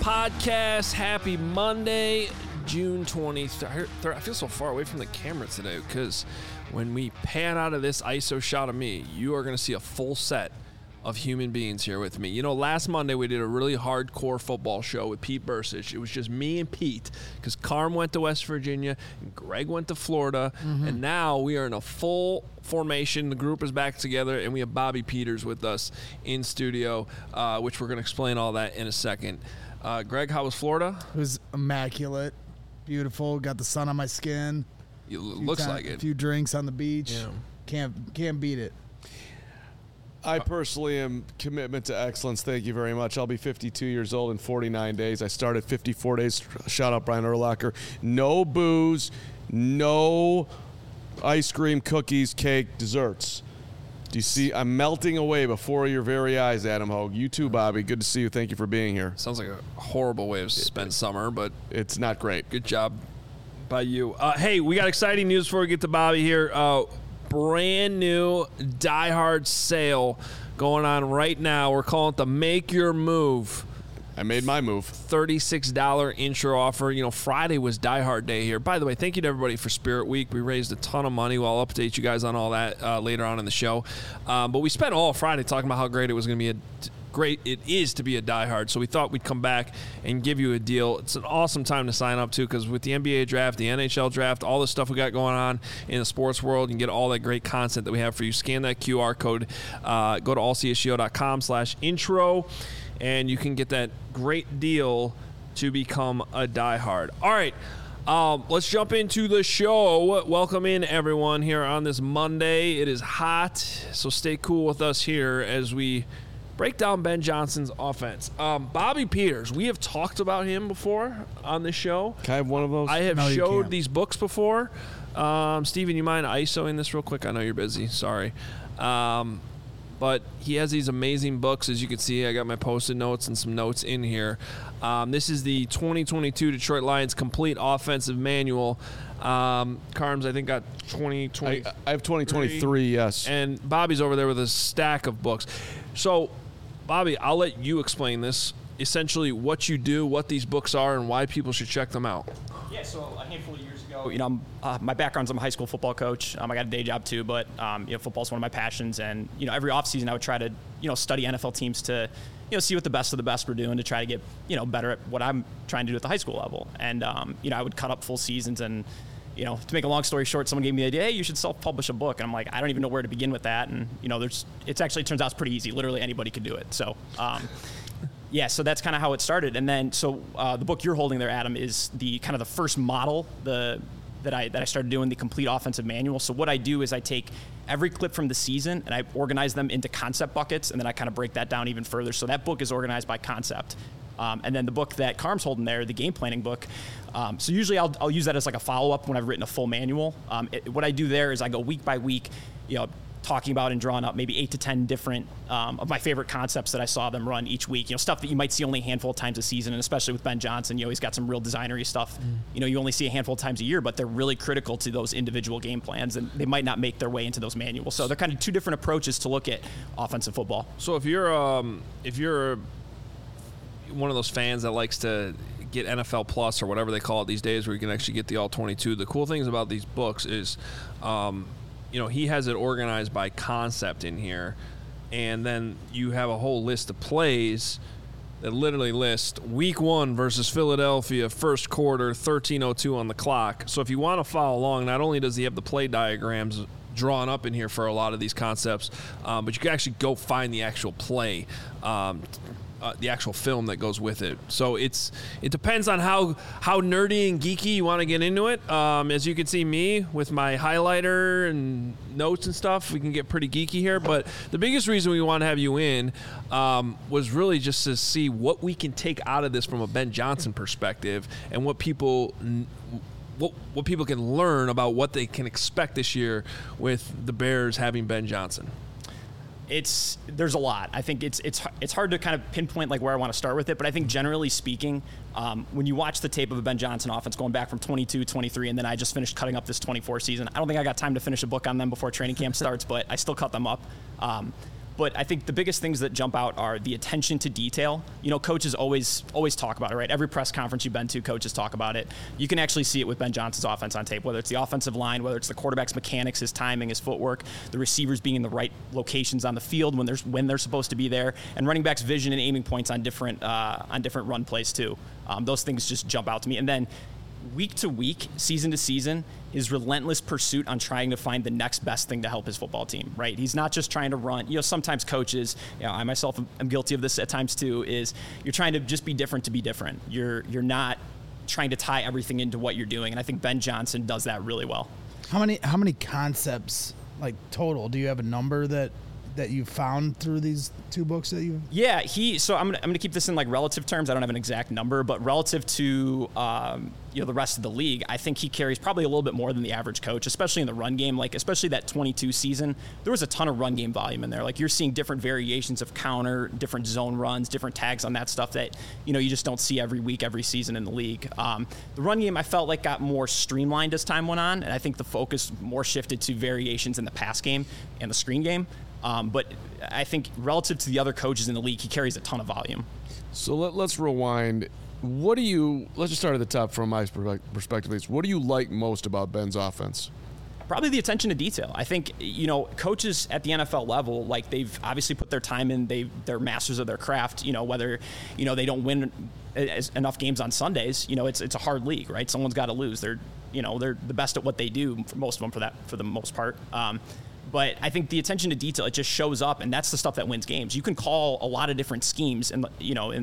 podcast. Happy Monday, June 23rd. I feel so far away from the camera today because when we pan out of this ISO shot of me, you are going to see a full set of human beings here with me. You know, last Monday we did a really hardcore football show with Pete Bursich. It was just me and Pete because Carm went to West Virginia and Greg went to Florida. And now we are in a full formation. The group is back together and we have Bobby Peters with us in studio, which we're going to explain all that in a second. Greg, how was Florida? It was immaculate, beautiful, got the sun on my skin. It looks like it. A few drinks on the beach. Yeah. Can't beat it. I personally am commitment to excellence. Thank you very much. I'll be 52 years old in 49 days. I started 54 days. Shout out Brian Urlacher. No booze, no ice cream, cookies, cake, desserts. Do you see? I'm melting away before your very eyes, Adam Hogue. You too, Bobby. Good to see you. Thank you for being here. Sounds like a horrible way to spend summer, but it's not great. Good job by you. Hey, we got exciting news before we get to Bobby here. Brand new Die Hard sale going on right now. We're calling it the Make Your Move. I made my move. $36 intro offer. You know, Friday was Die Hard Day here. By the way, thank you to everybody for Spirit Week. We raised a ton of money. We'll update you guys on all that later on in the show. But we spent all Friday talking about how great it was going to be great it is to be a diehard. So we thought we'd come back and give you a deal. It's an awesome time to sign up too, because with the NBA draft, the NHL draft, all the stuff we got going on in the sports world, you can get all that great content that we have for you. Scan that QR code, go to allcsgo.com/intro, and you can get that great deal to become a diehard. All right. Let's jump into the show. Welcome in, everyone, here on this Monday. It is hot, so stay cool with us here as we break down Ben Johnson's offense. Bobby Peters, we have talked about him before on this show. Can I have one of those? I have showed these books before. Steven, you mind ISOing this real quick? I know you're busy. Sorry. But he has these amazing books. As you can see, I got my Post-it notes and some notes in here. This is the 2022 Detroit Lions Complete Offensive Manual. Carms, I think, got 2023. I have 2023, yes. And Bobby's over there with a stack of books. So, Bobby, I'll let you explain this. Essentially, what you do, what these books are, and why people should check them out. Yeah, so a handful of years ago, you know, my background's I'm a high school football coach. I got a day job too, but you know, football's one of my passions. And you know, every offseason I would try to study NFL teams to see what the best of the best were doing to try to get better at what I'm trying to do at the high school level. And I would cut up full seasons and. To make a long story short, someone gave me the idea, hey, you should self-publish a book. And I'm like, I don't even know where to begin with that. And, it actually turns out it's pretty easy. Literally anybody can do it. So, so that's kind of how it started. And then, the book you're holding there, Adam, is the kind of the first model that I started doing, the Complete Offensive Manual. So what I do is I take every clip from the season and I organize them into concept buckets, and then I kind of break that down even further. So that book is organized by concept. And then the book that Carm's holding there, the game planning book, so usually I'll use that as like a follow-up when I've written a full manual. What I do there is I go week by week, talking about and drawing up maybe 8 to 10 different of my favorite concepts that I saw them run each week. Stuff that you might see only a handful of times a season, and especially with Ben Johnson, he's got some real designery stuff. You only see a handful of times a year, but they're really critical to those individual game plans, and they might not make their way into those manuals. So they're kind of two different approaches to look at offensive football. So if you're one of those fans that likes to get NFL Plus or whatever they call it these days, where you can actually get the all 22. The cool things about these books is, he has it organized by concept in here, and then you have a whole list of plays that literally list week 1 versus Philadelphia, first quarter, 13:02 on the clock. So if you want to follow along, not only does he have the play diagrams drawn up in here for a lot of these concepts, but you can actually go find the actual play. The actual film that goes with it. So it depends on how nerdy and geeky you want to get into it. As you can see me with my highlighter and notes and stuff, we can get pretty geeky here. But the biggest reason we want to have you in was really just to see what we can take out of this from a Ben Johnson perspective, and what people can learn about what they can expect this year with the Bears having Ben Johnson. There's a lot. I think it's hard to kind of pinpoint like where I want to start with it, but I think generally speaking, when you watch the tape of a Ben Johnson offense going back from 22, 23, and then I just finished cutting up this 24 season, I don't think I got time to finish a book on them before training camp starts, but I still cut them up. But I think the biggest things that jump out are the attention to detail. Coaches always talk about it, right? Every press conference you've been to, coaches talk about it. You can actually see it with Ben Johnson's offense on tape, whether it's the offensive line, whether it's the quarterback's mechanics, his timing, his footwork, the receivers being in the right locations on the field when they're supposed to be there, and running backs' vision and aiming points on different run plays too. Those things just jump out to me. And then week to week, season to season, his relentless pursuit on trying to find the next best thing to help his football team, right? He's not just trying to run. Sometimes coaches, I myself am guilty of this at times too, is you're trying to just be different to be different. You're not trying to tie everything into what you're doing. And I think Ben Johnson does that really well. How many concepts, like total, do you have a number that you found through these two books that you? Yeah, so I'm gonna keep this in like relative terms. I don't have an exact number, but relative to the rest of the league, I think he carries probably a little bit more than the average coach, especially in the run game. Like especially that 22 season, there was a ton of run game volume in there. Like you're seeing different variations of counter, different zone runs, different tags on that stuff that you just don't see every week, every season in the league. The run game I felt like got more streamlined as time went on, and I think the focus more shifted to variations in the pass game and the screen game. But I think relative to the other coaches in the league, he carries a ton of volume. So let's rewind. Let's just start at the top from my perspective. What do you like most about Ben's offense? Probably the attention to detail. I think, coaches at the NFL level, like they've obviously put their time in, they're masters of their craft, whether, they don't win enough games on Sundays, it's a hard league, right? Someone's got to lose. They're the best at what they do, for most of them for the most part. But I think the attention to detail, it just shows up, and that's the stuff that wins games. You can call a lot of different schemes and,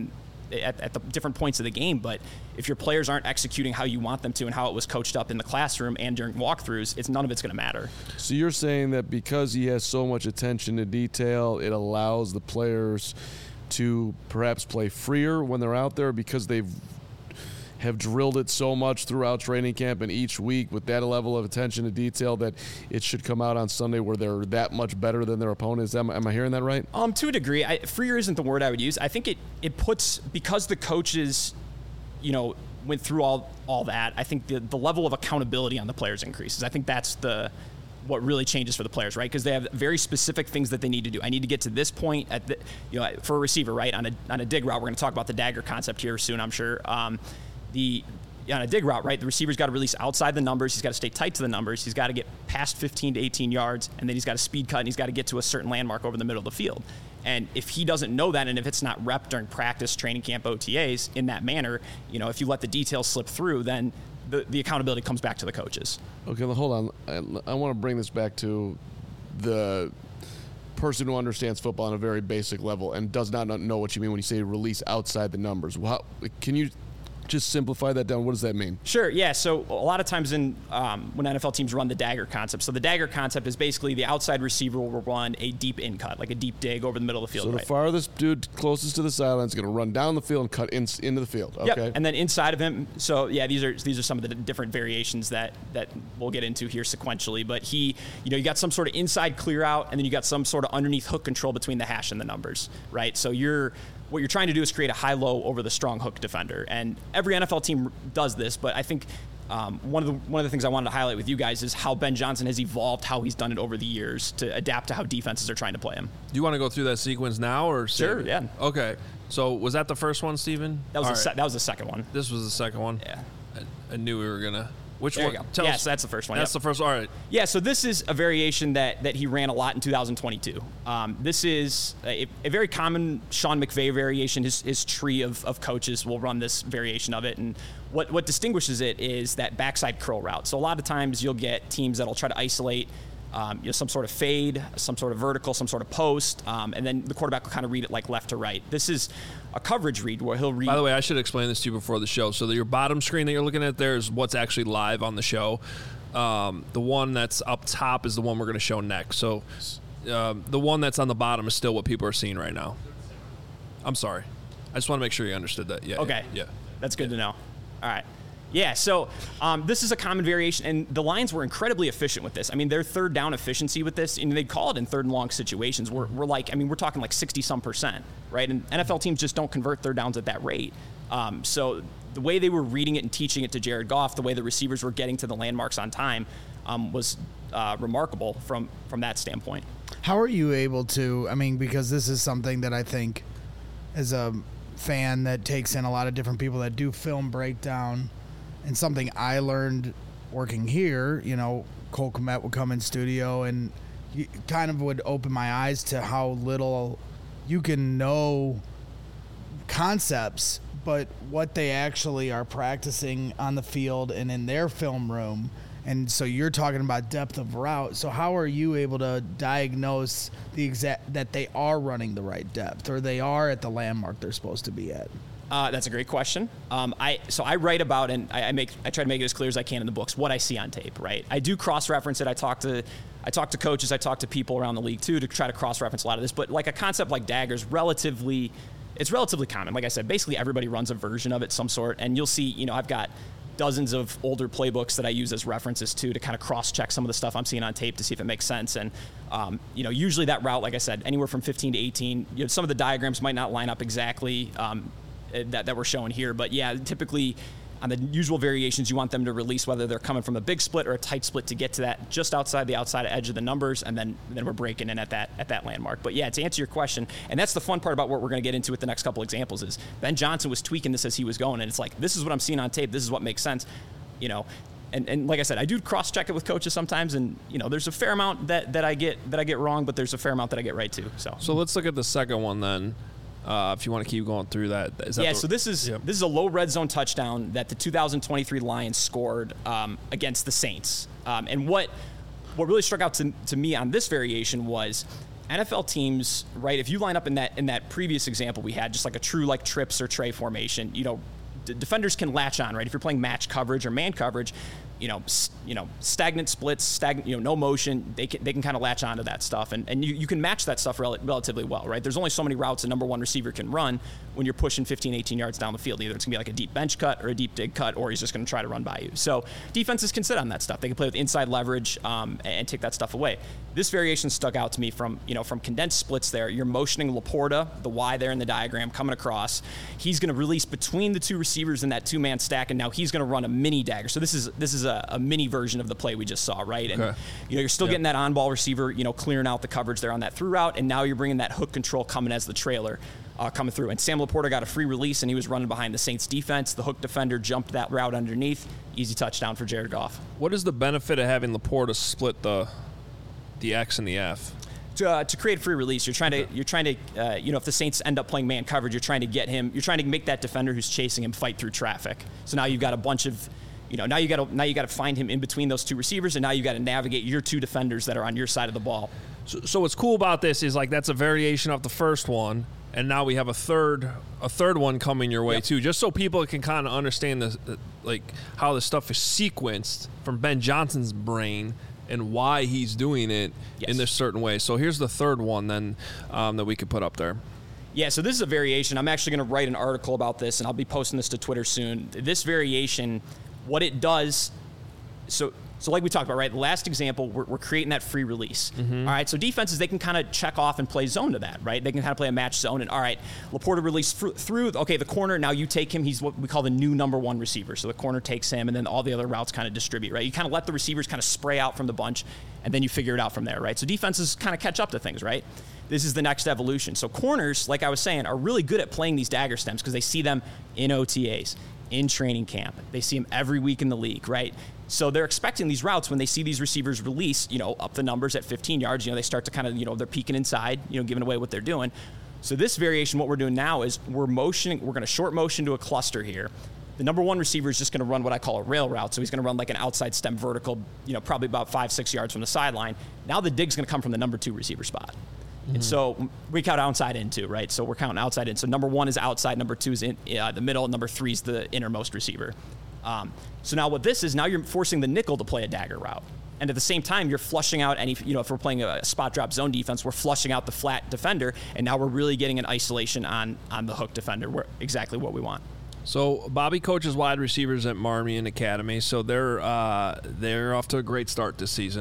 at the different points of the game, but if your players aren't executing how you want them to and how it was coached up in the classroom and during walkthroughs, none of it's going to matter. So you're saying that because he has so much attention to detail, it allows the players to perhaps play freer when they're out there because they've have drilled it so much throughout training camp and each week with that level of attention to detail that it should come out on Sunday where they're that much better than their opponents. Am I hearing that right? To a degree. Freer isn't the word I would use. I think it puts, because the coaches, went through all that, I think the level of accountability on the players increases. I think that's what really changes for the players, right? Because they have very specific things that they need to do. I need to get to this point for a receiver, right? On a dig route, we're going to talk about the dagger concept here soon, I'm sure. On a dig route, right, the receiver's got to release outside the numbers. He's got to stay tight to the numbers. He's got to get past 15 to 18 yards, and then he's got to speed cut, and he's got to get to a certain landmark over the middle of the field. And if he doesn't know that, and if it's not rep during practice, training camp, OTAs in that manner, if you let the details slip through, then the accountability comes back to the coaches. Okay, well, hold on. I want to bring this back to the person who understands football on a very basic level and does not know what you mean when you say release outside the numbers. Can you just simplify that down? What does that mean? Sure, yeah. So a lot of times when NFL teams run the dagger concept, so the dagger concept is basically the outside receiver will run a deep in cut, like a deep dig over the middle of the field. So the farthest dude closest to the sideline is going to run down the field and cut into the field. Okay. Yep. And then inside of him, so yeah, these are some of the different variations that we'll get into here sequentially. But you got some sort of inside clear out, and then you got some sort of underneath hook control between the hash and the numbers, right? So what you're trying to do is create a high-low over the strong hook defender. And every NFL team does this, but I think one of the things I wanted to highlight with you guys is how Ben Johnson has evolved, how he's done it over the years to adapt to how defenses are trying to play him. Do you want to go through that sequence now? Or sure, yeah. Okay. So was that the first one, Steven? That was the second one. This was the second one? Yeah. I knew we were going to. Which there one? You go. So that's the first one. That's the first. All right. Yeah, so this is a variation that he ran a lot in 2022. This is a very common Sean McVay variation. His tree of coaches will run this variation of it. And what distinguishes it is that backside curl route. So a lot of times you'll get teams that'll try to isolate some sort of fade, some sort of vertical, some sort of post, and then the quarterback will kind of read it like left to right. This is a coverage read where he'll read. By the way, I should explain this to you before the show. So your bottom screen that you're looking at there is what's actually live on the show. The one that's up top is the one we're going to show next. So the one that's on the bottom is still what people are seeing right now. I'm sorry. I just want to make sure you understood that. Yeah. Okay. Yeah. That's good to know. All right. Yeah, so this is a common variation, and the Lions were incredibly efficient with this. I mean, their third down efficiency with this, and they call it in third and long situations. We're talking like 60-some%, right? And NFL teams just don't convert third downs at that rate. So the way they were reading it and teaching it to Jared Goff, the way the receivers were getting to the landmarks on time, was remarkable from that standpoint. How are you able to, I mean, because this is something that I think as a fan that takes in a lot of different people that do film breakdown, and something I learned working here, you know, Cole Kmet would come in studio and you kind of would open my eyes to how little you can know concepts, but what they actually are practicing on the field and in their film room. And so you're talking about depth of route. So how are you able to diagnose the exact that they are running the right depth or they are at the landmark they're supposed to be at? That's a great question. I write about, and I try to make it as clear as I can in the books what I see on tape. Right. I do cross-reference it. I talk to coaches. I talk to people around the league too to try to cross-reference a lot of this. But like a concept like daggers, it's relatively common. Like I said, basically everybody runs a version of it, some sort. And you'll see, you know, I've got dozens of older playbooks that I use as references to kind of cross-check some of the stuff I'm seeing on tape to see if it makes sense. And, you know, usually that route, like I said, anywhere from 15 to 18, you know, some of the diagrams might not line up exactly that we're showing here. But, yeah, typically on the usual variations, you want them to release whether they're coming from a big split or a tight split to get to that just outside the outside edge of the numbers, and then we're breaking in at that landmark. But, yeah, to answer your question, and that's the fun part about what we're going to get into with the next couple examples is Ben Johnson was tweaking this as he was going, and it's like, this is what I'm seeing on tape. This is what makes sense, you know. And like I said, I do cross-check it with coaches sometimes, and, you know, there's a fair amount that I get wrong, but there's a fair amount that I get right, too. So let's look at the second one then. If you want to keep going through that. So this is a low red zone touchdown that the 2023 Lions scored against the Saints. And what really struck out to me on this variation was NFL teams, right? If you line up in that previous example we had, just like a true like trips or tray formation, you know, defenders can latch on, right? If you're playing match coverage or man coverage, stagnant splits, no motion, they can kind of latch onto that stuff, and you can match that stuff relatively well, right? There's only so many routes a number one receiver can run when you're pushing 15, 18 yards down the field. Either it's going to be like a deep bench cut or a deep dig cut, or he's just going to try to run by you. So defenses can sit on that stuff. They can play with inside leverage and take that stuff away. This variation stuck out to me from condensed splits there. You're motioning Laporta, the Y there in the diagram, coming across. He's going to release between the two receivers in that two-man stack, and now he's going to run a mini dagger. So this is a mini version of the play we just saw, right? And you're still getting that on-ball receiver, clearing out the coverage there on that through route, and now you're bringing that hook control coming as the trailer coming through. And Sam Laporta got a free release, and he was running behind the Saints defense. The hook defender jumped that route underneath. Easy touchdown for Jared Goff. What is the benefit of having Laporta split the X and the F? To create free release, you're trying to if the Saints end up playing man coverage, you're trying to make that defender who's chasing him fight through traffic. So now you've got a bunch of now you got to find him in between those two receivers, and now you got to navigate your two defenders that are on your side of the ball. So what's cool about this is like that's a variation of the first one, and now we have a third one coming your way too, just so people can kind of understand how this stuff is sequenced from Ben Johnson's brain and why he's doing it in this certain way. So here's the third one then that we could put up there. Yeah, so this is a variation. I'm actually going to write an article about this, and I'll be posting this to Twitter soon. This variation, what it does, so like we talked about, right? The last example, we're creating that free release. Mm-hmm. All right, so defenses, they can kind of check off and play zone to that, right? They can kind of play a match zone, and all right, Laporta release through, okay, the corner, now you take him. He's what we call the new number one receiver. So the corner takes him, and then all the other routes kind of distribute, right? You kind of let the receivers kind of spray out from the bunch, and then you figure it out from there, right? So defenses kind of catch up to things, right? This is the next evolution. So corners, like I was saying, are really good at playing these dagger stems because they see them in OTAs, in training camp. They see them every week in the league, right? So they're expecting these routes when they see these receivers release, up the numbers at 15 yards, they start to kind of, they're peeking inside, giving away what they're doing. So this variation, what we're doing now is we're going to short motion to a cluster here. The number one receiver is just going to run what I call a rail route. So he's going to run like an outside stem vertical, probably about 5-6 yards from the sideline. Now the dig's going to come from the number two receiver spot. Mm-hmm. And so we count outside in too, right? So we're counting outside in. So number one is outside, number two is in the middle, number three is the innermost receiver. So now what this is, now you're forcing the nickel to play a dagger route. And at the same time, you're flushing out any, if we're playing a spot drop zone defense, we're flushing out the flat defender, and now we're really getting an isolation on the hook defender, exactly what we want. So Bobby coaches wide receivers at Marmion Academy, so they're off to a great start this season.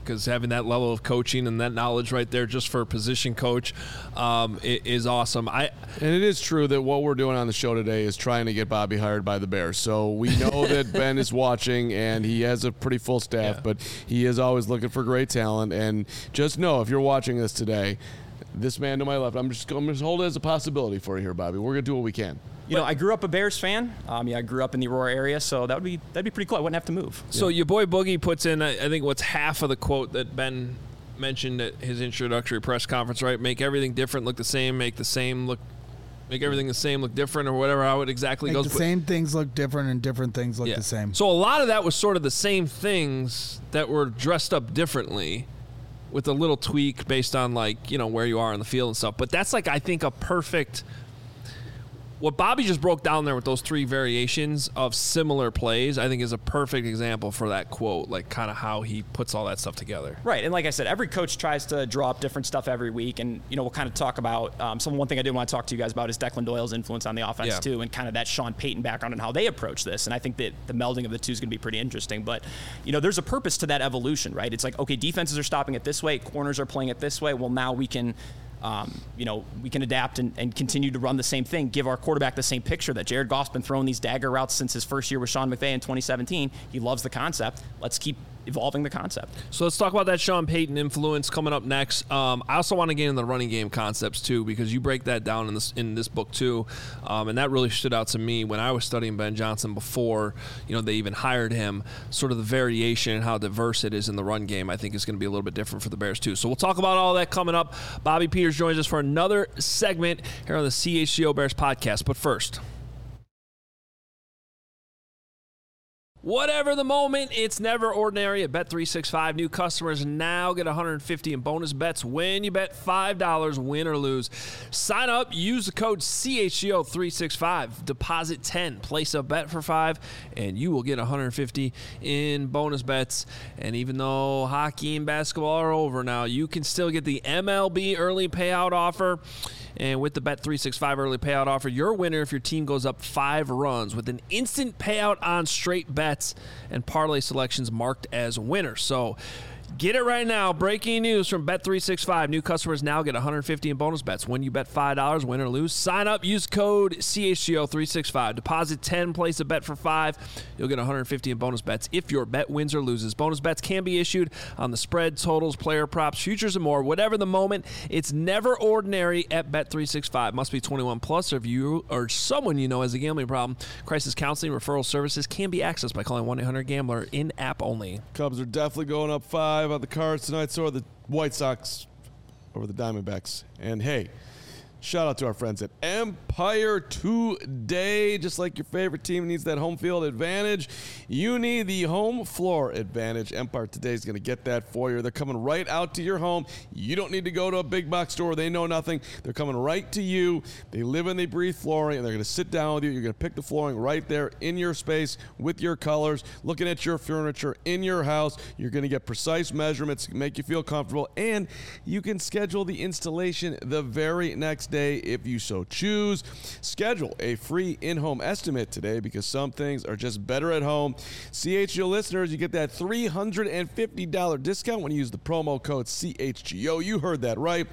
because having that level of coaching and that knowledge right there just for a position coach is awesome. And it is true that what we're doing on the show today is trying to get Bobby hired by the Bears. So we know that Ben is watching, and he has a pretty full staff, but he is always looking for great talent. And just know, if you're watching this today, this man to my left, I'm just going to hold it as a possibility for you here, Bobby. We're going to do what we can. You know, I grew up a Bears fan. I grew up in the Aurora area, so that'd be pretty cool. I wouldn't have to move. So your boy Boogie puts in, I think, what's half of the quote that Ben mentioned at his introductory press conference, right? Make everything different look the same. Make everything the same look different, or whatever. How it exactly goes. The same things look different, and different things look the same. So a lot of that was sort of the same things that were dressed up differently, with a little tweak based on, like, you know, where you are on the field and stuff. But that's, like, I think a perfect. What Bobby just broke down there with those three variations of similar plays, I think is a perfect example for that quote, like kind of how he puts all that stuff together. Right, and like I said, every coach tries to draw up different stuff every week, and, you know, we'll kind of talk about one thing I did want to talk to you guys about is Declan Doyle's influence on the offense too, and kind of that Sean Payton background and how they approach this, and I think that the melding of the two is going to be pretty interesting. But, you know, there's a purpose to that evolution, right? It's like, okay, defenses are stopping it this way, corners are playing it this way, well, now we can we can adapt and continue to run the same thing, give our quarterback the same picture that Jared Goff's been throwing these dagger routes since his first year with Sean McVay in 2017. He loves the concept. Let's keep evolving the concept. So let's talk about that Sean Payton influence coming up next. I also want to get into the running game concepts too, because you break that down in this book too, and that really stood out to me when I was studying Ben Johnson before, you know, they even hired him. Sort of the variation and how diverse it is in the run game, I think, is going to be a little bit different for the Bears too. So we'll talk about all that coming up. Bobby Peters joins us for another segment here on the CHGO Bears podcast. But first, whatever the moment, it's never ordinary at Bet365. New customers now get $150 in bonus bets when you bet $5, win or lose. Sign up, use the code CHGO365, deposit 10, place a bet for 5, and you will get $150 in bonus bets. And even though hockey and basketball are over now, you can still get the MLB early payout offer. And with the Bet365 early payout offer, you're a winner if your team goes up 5 runs with an instant payout on straight bets and parlay selections marked as winners. So get it right now. Breaking news from Bet365. New customers now get $150 in bonus bets when you bet $5, win or lose. Sign up, use code CHGO365. Deposit 10, place a bet for 5. You'll get $150 in bonus bets if your bet wins or loses. Bonus bets can be issued on the spread, totals, player props, futures, and more. Whatever the moment, it's never ordinary at Bet365. Must be 21 plus, or if you or someone you know has a gambling problem. Crisis counseling, referral services can be accessed by calling 1-800-GAMBLER, in-app only. Cubs are definitely going up 5 on the Cards tonight, so are the White Sox over the Diamondbacks. And hey, shout out to our friends at Empire Today. Just like your favorite team needs that home field advantage, you need the home floor advantage. Empire Today is going to get that for you. They're coming right out to your home. You don't need to go to a big box store. They know nothing. They're coming right to you. They live and they breathe flooring, and they're going to sit down with you. You're going to pick the flooring right there in your space with your colors, looking at your furniture in your house. You're going to get precise measurements, make you feel comfortable, and you can schedule the installation the very next day if you so choose. Schedule a free in-home estimate today, because some things are just better at home. CHGO listeners, you get that $350 discount when you use the promo code CHGO. You heard that right.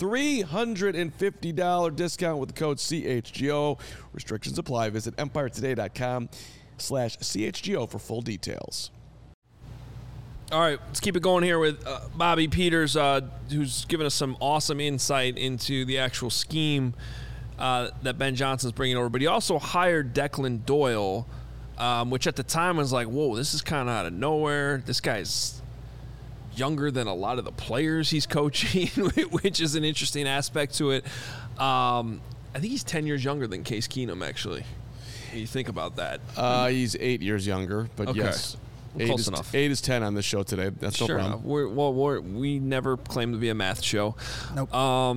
$350 discount with the code CHGO. Restrictions apply. Visit empiretoday.com/CHGO for full details. All right, let's keep it going here with Bobby Peters, who's given us some awesome insight into the actual scheme that Ben Johnson's bringing over. But he also hired Declan Doyle, which at the time was like, whoa, this is kind of out of nowhere. This guy's younger than a lot of the players he's coaching, which is an interesting aspect to it. I think he's 10 years younger than Case Keenum, actually. You think about that. He's 8 years younger, but okay. Yes. Close enough. 8 is 10 on this show today. That's no problem. We never claim to be a math show. Nope.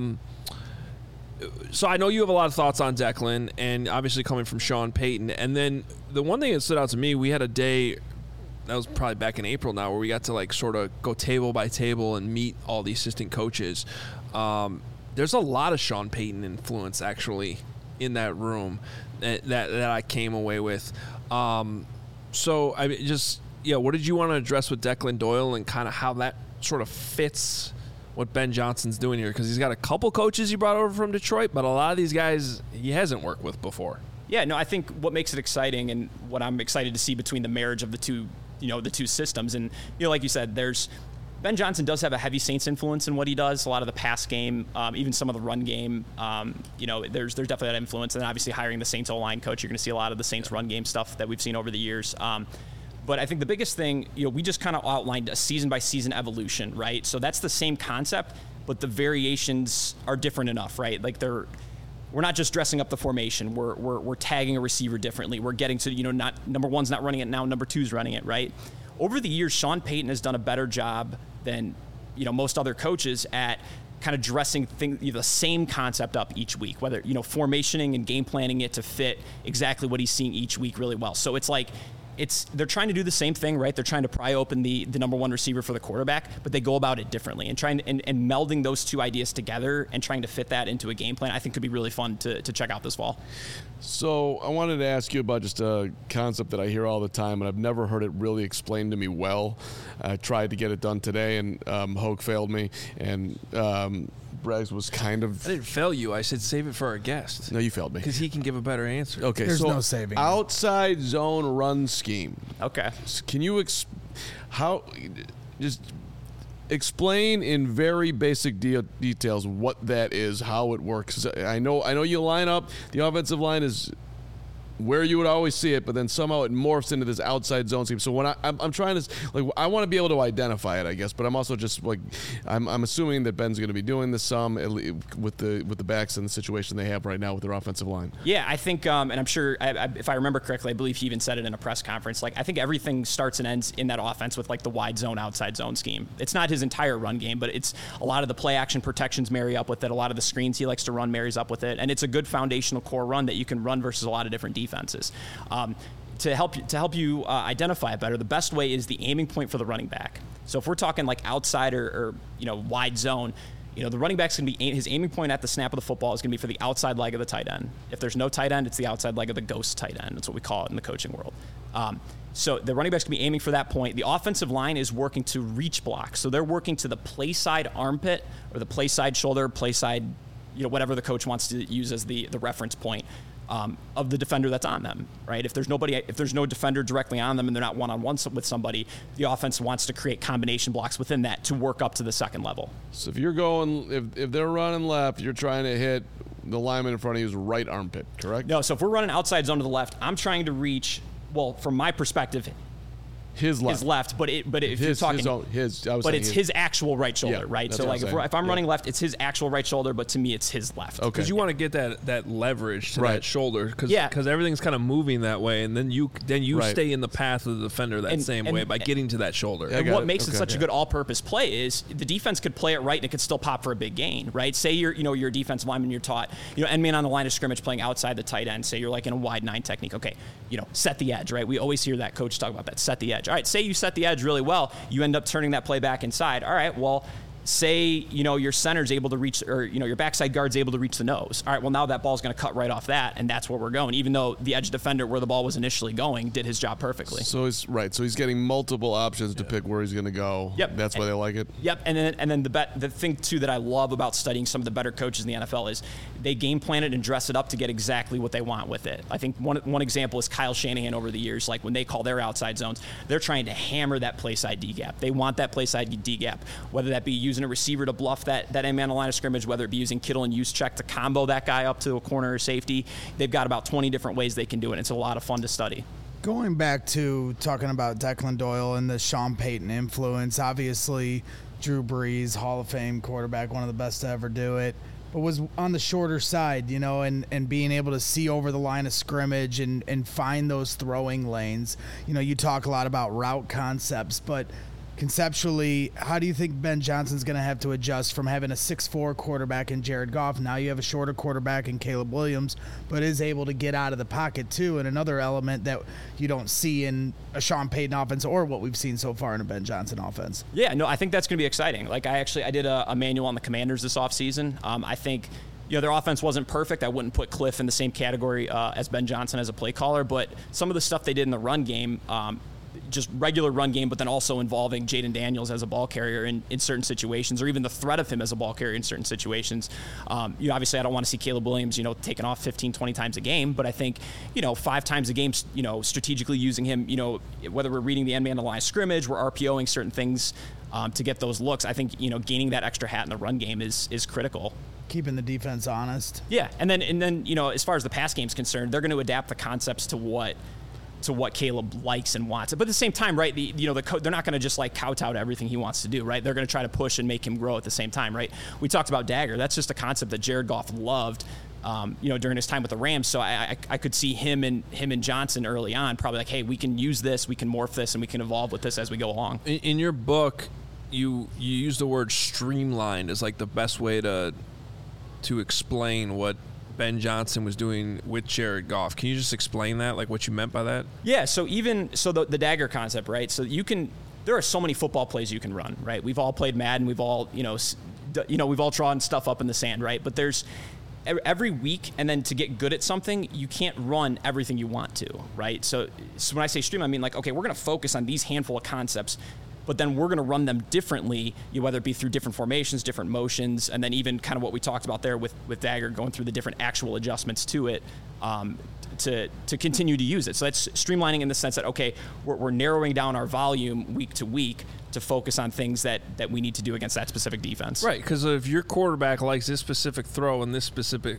So I know you have a lot of thoughts on Declan, and obviously coming from Sean Payton. And then the one thing that stood out to me, we had a day, that was probably back in April now, where we got to like sort of go table by table and meet all the assistant coaches. There's a lot of Sean Payton influence actually in that room that I came away with. So I mean, just. Yeah, what did you want to address with Declan Doyle and kind of how that sort of fits what Ben Johnson's doing here, because he's got a couple coaches he brought over from Detroit, but a lot of these guys he hasn't worked with before. Yeah, no, I think what makes it exciting and what I'm excited to see between the marriage of the two, the two systems, and like you said, Ben Johnson does have a heavy Saints influence in what he does. A lot of the pass game, even some of the run game. There's definitely that influence. And then obviously hiring the Saints O-line coach, you're going to see a lot of the Saints run game stuff that we've seen over the years. But I think the biggest thing, we just kind of outlined a season-by-season evolution, right? So that's the same concept, but the variations are different enough, right? Like we're not just dressing up the formation. We're tagging a receiver differently. We're getting to, not number one's not running it now, number two's running it, right? Over the years, Sean Payton has done a better job than most other coaches at kind of dressing the same concept up each week, whether formationing and game planning it to fit exactly what he's seeing each week really well. So it's like they're trying to do the same thing, right? They're trying to pry open the number one receiver for the quarterback, but they go about it differently, and trying to, and melding those two ideas together and trying to fit that into a game plan, I think could be really fun to check out this fall. So I wanted to ask you about just a concept that I hear all the time, and I've never heard it really explained to me well. I tried to get it done today, and Hoke failed me, and Breggs was kind of... I didn't fail you. I said save it for our guest. No, you failed me. Because he can give a better answer. Okay, There's so no saving. Outside zone run scheme. Okay. Can you just explain in very basic details what that is, how it works? I know you line up, the offensive line is where you would always see it, but then somehow it morphs into this outside zone scheme. So when I'm trying to, I want to be able to identify it, I guess, but I'm also just I'm assuming that Ben's going to be doing this some with the backs and the situation they have right now with their offensive line. Yeah, I think, and I'm sure if I remember correctly, I believe he even said it in a press conference. I think everything starts and ends in that offense with the wide zone, outside zone scheme. It's not his entire run game, but it's a lot of the play action protections marry up with it. A lot of the screens he likes to run marries up with it, and it's a good foundational core run that you can run versus a lot of different defenses. To help you identify it better, the best way is the aiming point for the running back. So if we're talking outside or wide zone, the running back's going to be his aiming point at the snap of the football is going to be for the outside leg of the tight end. If there's no tight end, it's the outside leg of the ghost tight end. That's what we call it in the coaching world. So the running back's going to be aiming for that point. The offensive line is working to reach block. So they're working to the play side armpit or the play side shoulder, play side, whatever the coach wants to use as the reference point. Of the defender that's on them, right? If there's no defender directly on them and they're not one-on-one with somebody, the offense wants to create combination blocks within that to work up to the second level. So if you're if they're running left, you're trying to hit the lineman in front of you's right armpit, correct? No, so if we're running outside zone to the left, I'm trying to reach, well, from my perspective, his left, but if you're talking, it's his actual right shoulder, yeah, right? So if I'm running left, it's his actual right shoulder, but to me, it's his left. Okay. Because you want to get that leverage to that shoulder, because everything's kind of moving that way, and then you stay in the path of the defender that same way by getting to that shoulder. And what makes it such a good all-purpose play is the defense could play it right and it could still pop for a big gain, right? Say you're a defensive lineman, you're taught end man on the line of scrimmage playing outside the tight end. Say you're in a wide 9 technique. Okay, set the edge, right? We always hear that coach talk about that. Set the edge. All right, say you set the edge really well, you end up turning that play back inside. All right, well, say your center's able to reach, or your backside guard's able to reach the nose. All right, well, now that ball's going to cut right off that, and that's where we're going, even though the edge defender where the ball was initially going did his job perfectly. So he's getting multiple options to pick where he's going to go. Yep. That's why they like it. Yep. And then the thing too that I love about studying some of the better coaches in the NFL is they game plan it and dress it up to get exactly what they want with it. I think one example is Kyle Shanahan over the years. When they call their outside zones, they're trying to hammer that play side D gap. They want that play side D gap, whether that be using a receiver to bluff that end man on the line of scrimmage, whether it be using Kittle and Juszczyk to combo that guy up to a corner or safety. They've got about 20 different ways they can do it. It's a lot of fun to study. Going back to talking about Declan Doyle and the Sean Payton influence, obviously Drew Brees, Hall of Fame quarterback, one of the best to ever do it, but was on the shorter side, and being able to see over the line of scrimmage and find those throwing lanes. You talk a lot about route concepts, but conceptually, how do you think Ben Johnson's going to have to adjust from having a 6'4" quarterback in Jared Goff? Now you have a shorter quarterback in Caleb Williams, but is able to get out of the pocket too, and another element that you don't see in a Sean Payton offense or what we've seen so far in a Ben Johnson offense. Yeah, no, I think that's going to be exciting. I did a manual on the Commanders this offseason. I think their offense wasn't perfect. I wouldn't put Cliff in the same category as Ben Johnson as a play caller, but some of the stuff they did in the run game, just regular run game, but then also involving Jaden Daniels as a ball carrier in certain situations, or even the threat of him as a ball carrier in certain situations. Obviously I don't want to see Caleb Williams, taking off 15, 20 times a game, but I think, 5 times a game, strategically using him, whether we're reading the end man on the line of scrimmage, we're RPOing certain things to get those looks. I think, gaining that extra hat in the run game is critical. Keeping the defense honest. Yeah, and then as far as the pass game's concerned, they're going to adapt the concepts to what Caleb likes and wants. But at the same time, right, they're not going to just like kowtow to everything he wants to do, right? They're going to try to push and make him grow at the same time, right? We talked about Dagger. That's just a concept that Jared Goff loved, during his time with the Rams. So I could see him and Johnson early on probably like, hey, we can use this, we can morph this, and we can evolve with this as we go along. In your book, you use the word streamlined as like the best way to explain what Ben Johnson was doing with Jared Goff. Can you just explain that, like what you meant by that? Yeah, so the Dagger concept, right? So there are so many football plays you can run, right? We've all played Madden, we've all, we've all drawn stuff up in the sand, right? But there's every week, and then to get good at something, you can't run everything you want to, right? So when I say stream, I mean like, okay, we're going to focus on these handful of concepts, but then we're going to run them differently, whether it be through different formations, different motions, and then even kind of what we talked about there with Dagger, going through the different actual adjustments to it to continue to use it. So that's streamlining in the sense that, okay, we're narrowing down our volume week to week to focus on things that we need to do against that specific defense. Right, because if your quarterback likes this specific throw and this specific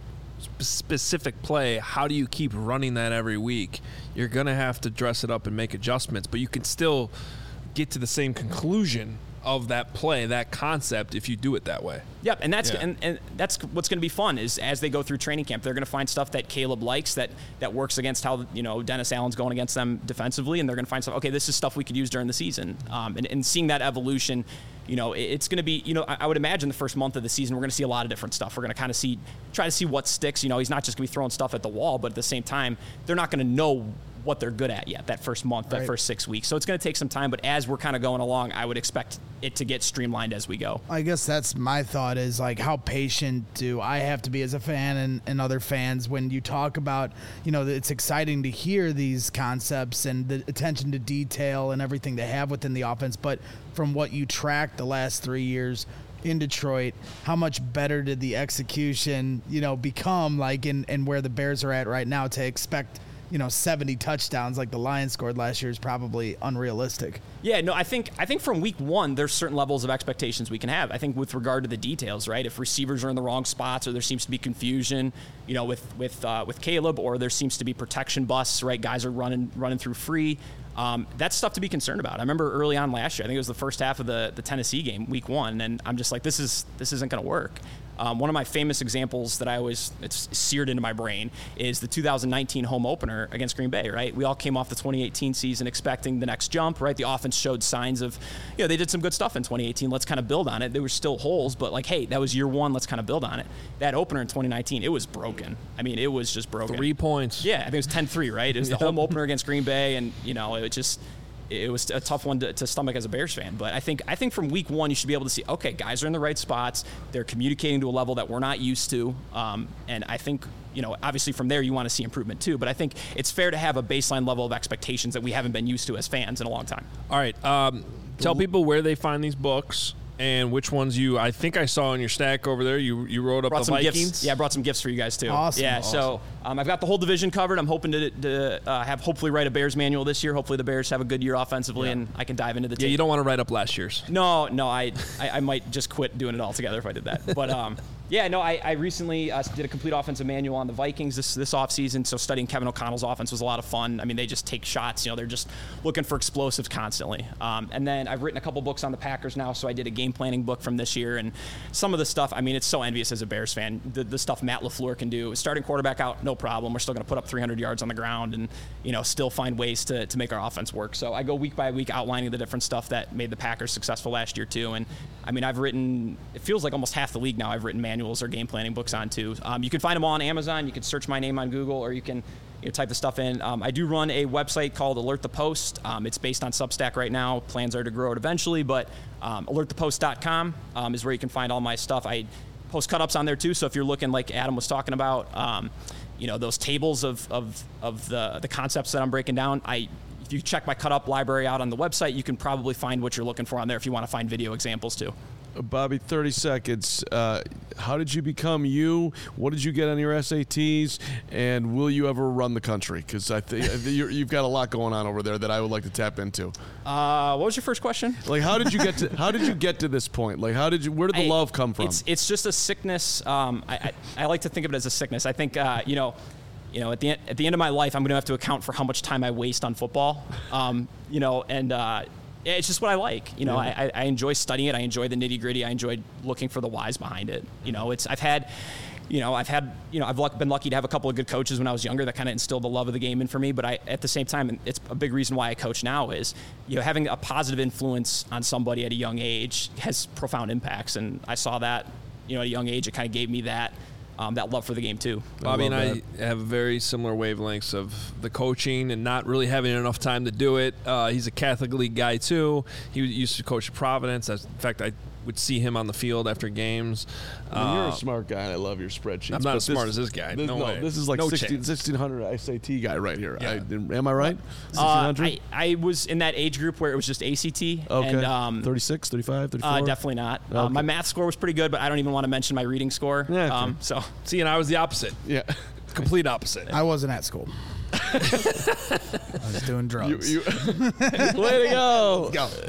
play, how do you keep running that every week? You're going to have to dress it up and make adjustments, but you can still get to the same conclusion of that play, that concept, if you do it that way. Yep, and that's and that's what's going to be fun is as they go through training camp, they're going to find stuff that Caleb likes that works against how Dennis Allen's going against them defensively, and they're going to find stuff. Okay, this is stuff we could use during the season, and seeing that evolution. It's going to be, I would imagine the first month of the season, we're going to see a lot of different stuff. We're going to kind of try to see what sticks. He's not just going to be throwing stuff at the wall, but at the same time, they're not going to know what they're good at yet that first month, that first 6 weeks. So it's going to take some time, but as we're kind of going along, I would expect it to get streamlined as we go. I guess that's my thought is like, how patient do I have to be as a fan and other fans when you talk about, it's exciting to hear these concepts and the attention to detail and everything they have within the offense. But from what you tracked the last 3 years in Detroit, how much better did the execution, become like in where the Bears are at right now? To expect 70 touchdowns like the Lions scored last year is probably unrealistic. Yeah, no, I think from week one, there's certain levels of expectations we can have. I think with regard to the details, right? If receivers are in the wrong spots, or there seems to be confusion, with Caleb, or there seems to be protection busts, right? Guys are running through free. That's stuff to be concerned about. I remember early on last year, I think it was the first half of the Tennessee game, week one, and I'm just like, this isn't going to work. One of my famous examples that it's seared into my brain is the 2019 home opener against Green Bay, right? We all came off the 2018 season expecting the next jump, right? The offense showed signs of, they did some good stuff in 2018. Let's kind of build on it. There were still holes, but like, hey, that was year one. Let's kind of build on it. That opener in 2019, it was broken. I mean, it was just broken. 3 points. Yeah, I think it was 10-3, right? It was the home opener against Green Bay, and, it was a tough one to stomach as a Bears fan. But I think from week one, you should be able to see, okay, guys are in the right spots. They're communicating to a level that we're not used to. And I think, obviously from there, you want to see improvement too. But I think it's fair to have a baseline level of expectations that we haven't been used to as fans in a long time. All right. Tell people where they find these books and which ones I think I saw in your stack over there. You wrote up the Vikings. Gifts. Yeah, I brought some gifts for you guys too. Awesome. Yeah, awesome. So I've got the whole division covered. I'm hoping to have hopefully write a Bears manual this year. Hopefully the Bears have a good year offensively, and I can dive into the tape. Yeah, you don't want to write up last year's. No, I might just quit doing it altogether if I did that. But I recently did a complete offensive manual on the Vikings this offseason. So studying Kevin O'Connell's offense was a lot of fun. I mean, they just take shots. They're just looking for explosives constantly. And then I've written a couple books on the Packers now. So I did a game planning book from this year, and some of the stuff. I mean, it's so envious as a Bears fan. The stuff Matt LaFleur can do. Starting quarterback out, no problem. We're still going to put up 300 yards on the ground, and still find ways to make our offense work. So I go week by week outlining the different stuff that made the Packers successful last year too. And I mean, I've written. It feels like almost half the league now. I've written manuals or game planning books on too. You can find them all on Amazon. You can search my name on Google, or you can type the stuff in. I do run a website called Alert the Post. It's based on Substack right now. Plans are to grow it eventually, but alertthepost.com is where you can find all my stuff. I post cut-ups on there too, so if you're looking like Adam was talking about, those tables of the concepts that I'm breaking down, if you check my cut up library out on the website, you can probably find what you're looking for on there if you want to find video examples too. Bobby, 30 seconds. How did you become you? What did you get on your SATs? And will you ever run the country? Because I think you've got a lot going on over there that I would like to tap into. What was your first question? Like, how did you get to this point? Like, where did the love come from? It's just a sickness. I like to think of it as a sickness. I think at the end of my life, I'm going to have to account for how much time I waste on football. It's just what I like. I enjoy studying it. I enjoy the nitty gritty. I enjoy looking for the whys behind it. I've been lucky to have a couple of good coaches when I was younger that kind of instilled the love of the game in for me. But at the same time, it's a big reason why I coach now is, having a positive influence on somebody at a young age has profound impacts. And I saw that, at a young age, it kind of gave me that love for the game too. Bobby and I have very similar wavelengths of the coaching and not really having enough time to do it. He's a Catholic League guy too. He used to coach at Providence. In fact, I would see him on the field after games. You're a smart guy, and I love your spreadsheets. I'm not as smart as this guy. No way. This is like 1600 SAT guy right here. Yeah. Am I right? 1600? I was in that age group where it was just ACT. Okay. And, 36, 35, 34? Definitely not. Okay. My math score was pretty good, but I don't even want to mention my reading score. Yeah, okay. See, and I was the opposite. Yeah. Complete opposite. I wasn't at school. I was doing drugs. Way to go.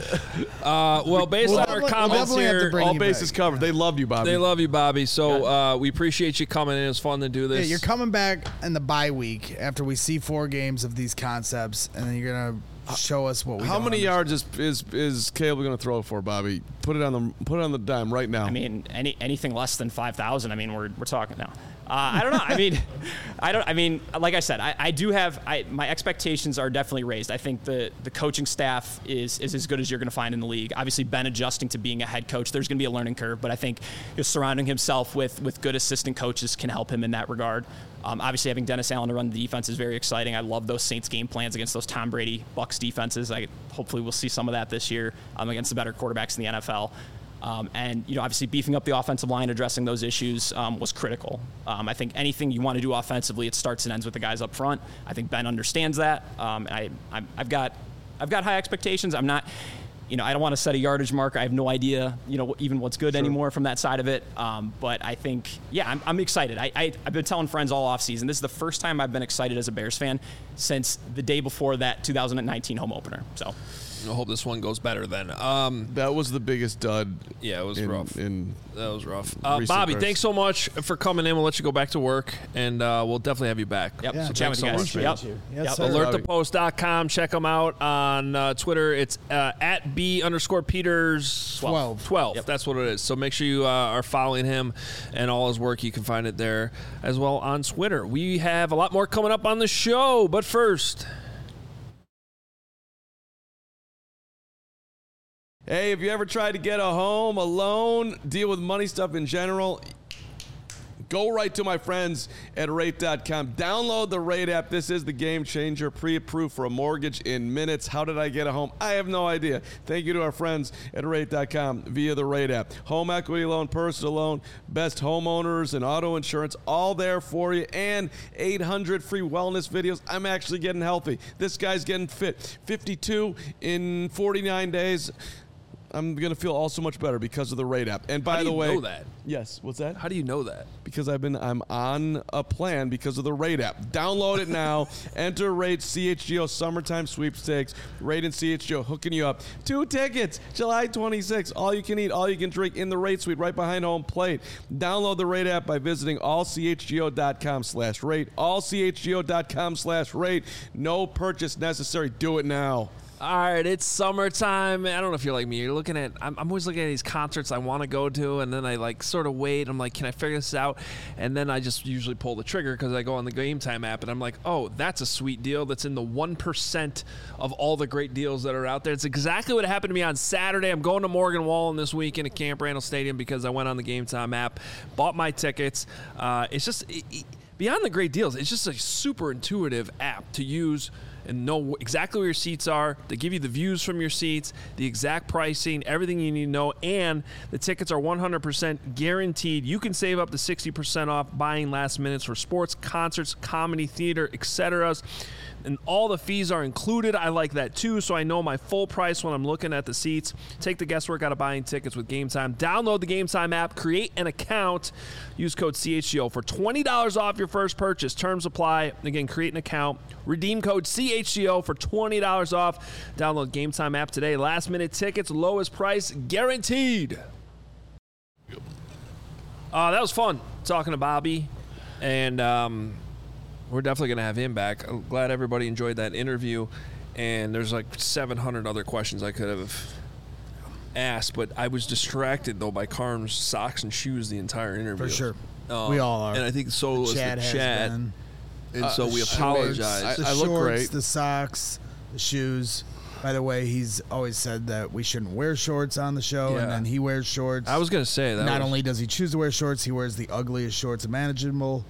Well, based on our comments here, all bases covered. They love you, Bobby. They love you, Bobby. So we appreciate you coming in. It's fun to do this. Yeah, you're coming back in the bye week after we see 4 games of these concepts, and then you're going to show us what we How many yards is Caleb going to throw for, Bobby? Put it on the dime right now. I mean, anything less than 5,000. I mean, we're talking now. I don't know. Like I said, I do have my expectations are definitely raised. I think the coaching staff is as good as you're going to find in the league. Obviously, Ben adjusting to being a head coach, there's going to be a learning curve, but I think surrounding himself with good assistant coaches can help him in that regard. Obviously, having Dennis Allen to run the defense is very exciting. I love those Saints game plans against those Tom Brady Bucs defenses. Hopefully we'll see some of that this year against the better quarterbacks in the NFL. Obviously beefing up the offensive line, addressing those issues was critical. I think anything you want to do offensively, it starts and ends with the guys up front. I think Ben understands that. I've got high expectations. I'm not, I don't want to set a yardage marker. I have no idea, even what's good anymore from that side of it. But I think, I'm excited. I've been telling friends all offseason, this is the first time I've been excited as a Bears fan since the day before that 2019 home opener. So I hope this one goes better then. That was the biggest dud. Yeah, it was rough. That was rough. Bears. Bobby, thanks so much for coming in. We'll let you go back to work, and we'll definitely have you back. Yep. Yeah. So Chat thanks with so you much, guys. man. Yes, Yep. sir. AlertThePost.com. Check them out on Twitter. It's at @B_Peters 12. Yep. That's what it is. So make sure you are following him and all his work. You can find it there as well on Twitter. We have a lot more coming up on the show, but first... Hey, have you ever tried to get a home, a loan, deal with money stuff in general? Go right to my friends at Rate.com. Download the Rate app. This is the game changer. Pre-approved for a mortgage in minutes. How did I get a home? I have no idea. Thank you to our friends at Rate.com via the Rate app. Home equity loan, personal loan, best homeowners and auto insurance, all there for you. And 800 free wellness videos. I'm actually getting healthy. This guy's getting fit. 52 in 49 days. I'm going to feel all so much better because of the Rate app. And by the way, How do you know that? Yes, what's that? How do you know that? Because I'm on a plan because of the Rate app. Download it now. Enter Rate CHGO Summertime Sweepstakes. Rate and CHGO hooking you up. 2 tickets, July 26th. All you can eat, all you can drink in the Rate Suite right behind home plate. Download the Rate app by visiting allchgo.com/rate. allchgo.com/rate. No purchase necessary. Do it now. All right, it's summertime. I don't know if you're like me. I'm always looking at these concerts I want to go to, and then I sort of wait. I'm like, can I figure this out? And then I just usually pull the trigger because I go on the Game Time app, and I'm like, oh, that's a sweet deal. That's in the 1% of all the great deals that are out there. It's exactly what happened to me on Saturday. I'm going to Morgan Wallen this weekend at Camp Randall Stadium because I went on the Game Time app, bought my tickets. It's just beyond the great deals. It's just a super intuitive app to use and know exactly where your seats are. They give you the views from your seats, the exact pricing, everything you need to know, and the tickets are 100% guaranteed. You can save up to 60% off buying last minutes for sports, concerts, comedy, theater, etc. and all the fees are included. I like that too, so I know my full price when I'm looking at the seats. Take the guesswork out of buying tickets with Game Time. Download the Game Time app, create an account, use code CHGO for $20 off your first purchase. Terms apply. Again, create an account, redeem code CHGO for $20 off. Download Game Time app today. Last minute tickets, lowest price guaranteed. That was fun talking to Bobby, and we're definitely going to have him back. I'm glad everybody enjoyed that interview, and there's like 700 other questions I could have asked, but I was distracted, though, by Carm's socks and shoes the entire interview. For sure. We all are. And I think so was Chad the has chat. been. And so we apologize. The I look shorts, great. the socks, the shoes. By the way, he's always said that we shouldn't wear shorts on the show, Yeah. and then he wears shorts. I was going to say that. Not only does he choose to wear shorts, he wears the ugliest shorts imaginable.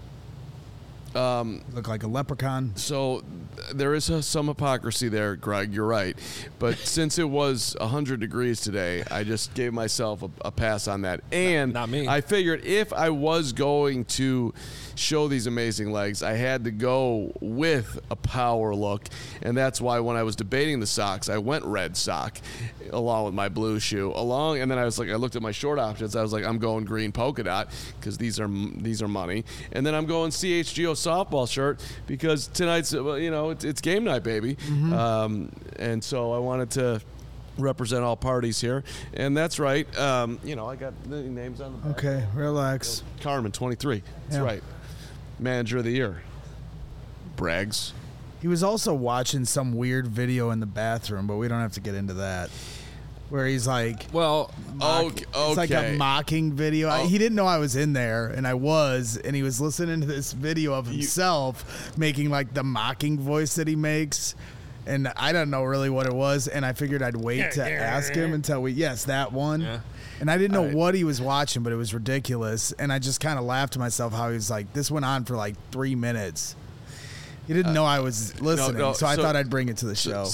Look like a leprechaun. So there is some hypocrisy there, Greg. You're right. But since it was 100 degrees today, I just gave myself a pass on that. And Not me. I figured if I was going to show these amazing legs, I had to go with a power look. And that's why when I was debating the socks, I went red sock along with my blue shoe. And then I looked at my short options. I was like, I'm going green polka dot because these are money. And then I'm going CHGO softball shirt because tonight's, it's game night, baby. Mm-hmm. And so I wanted to represent all parties here. And that's right. I got the names on the back. Okay, relax. Carmen, 23. That's Yeah. right. Manager of the year. Braggs. He was also watching some weird video in the bathroom, but we don't have to get into that. Where he's like, Well, Okay. it's like a mocking video. He didn't know I was in there, and I was, and he was listening to this video of himself making like the mocking voice that he makes, and I don't know really what it was, and I figured I'd wait to ask him until that one. Yeah. And I didn't know what he was watching, but it was ridiculous, and I just kind of laughed to myself how he was like, this went on for like 3 minutes. He didn't know I was listening, so I thought I'd bring it to the show.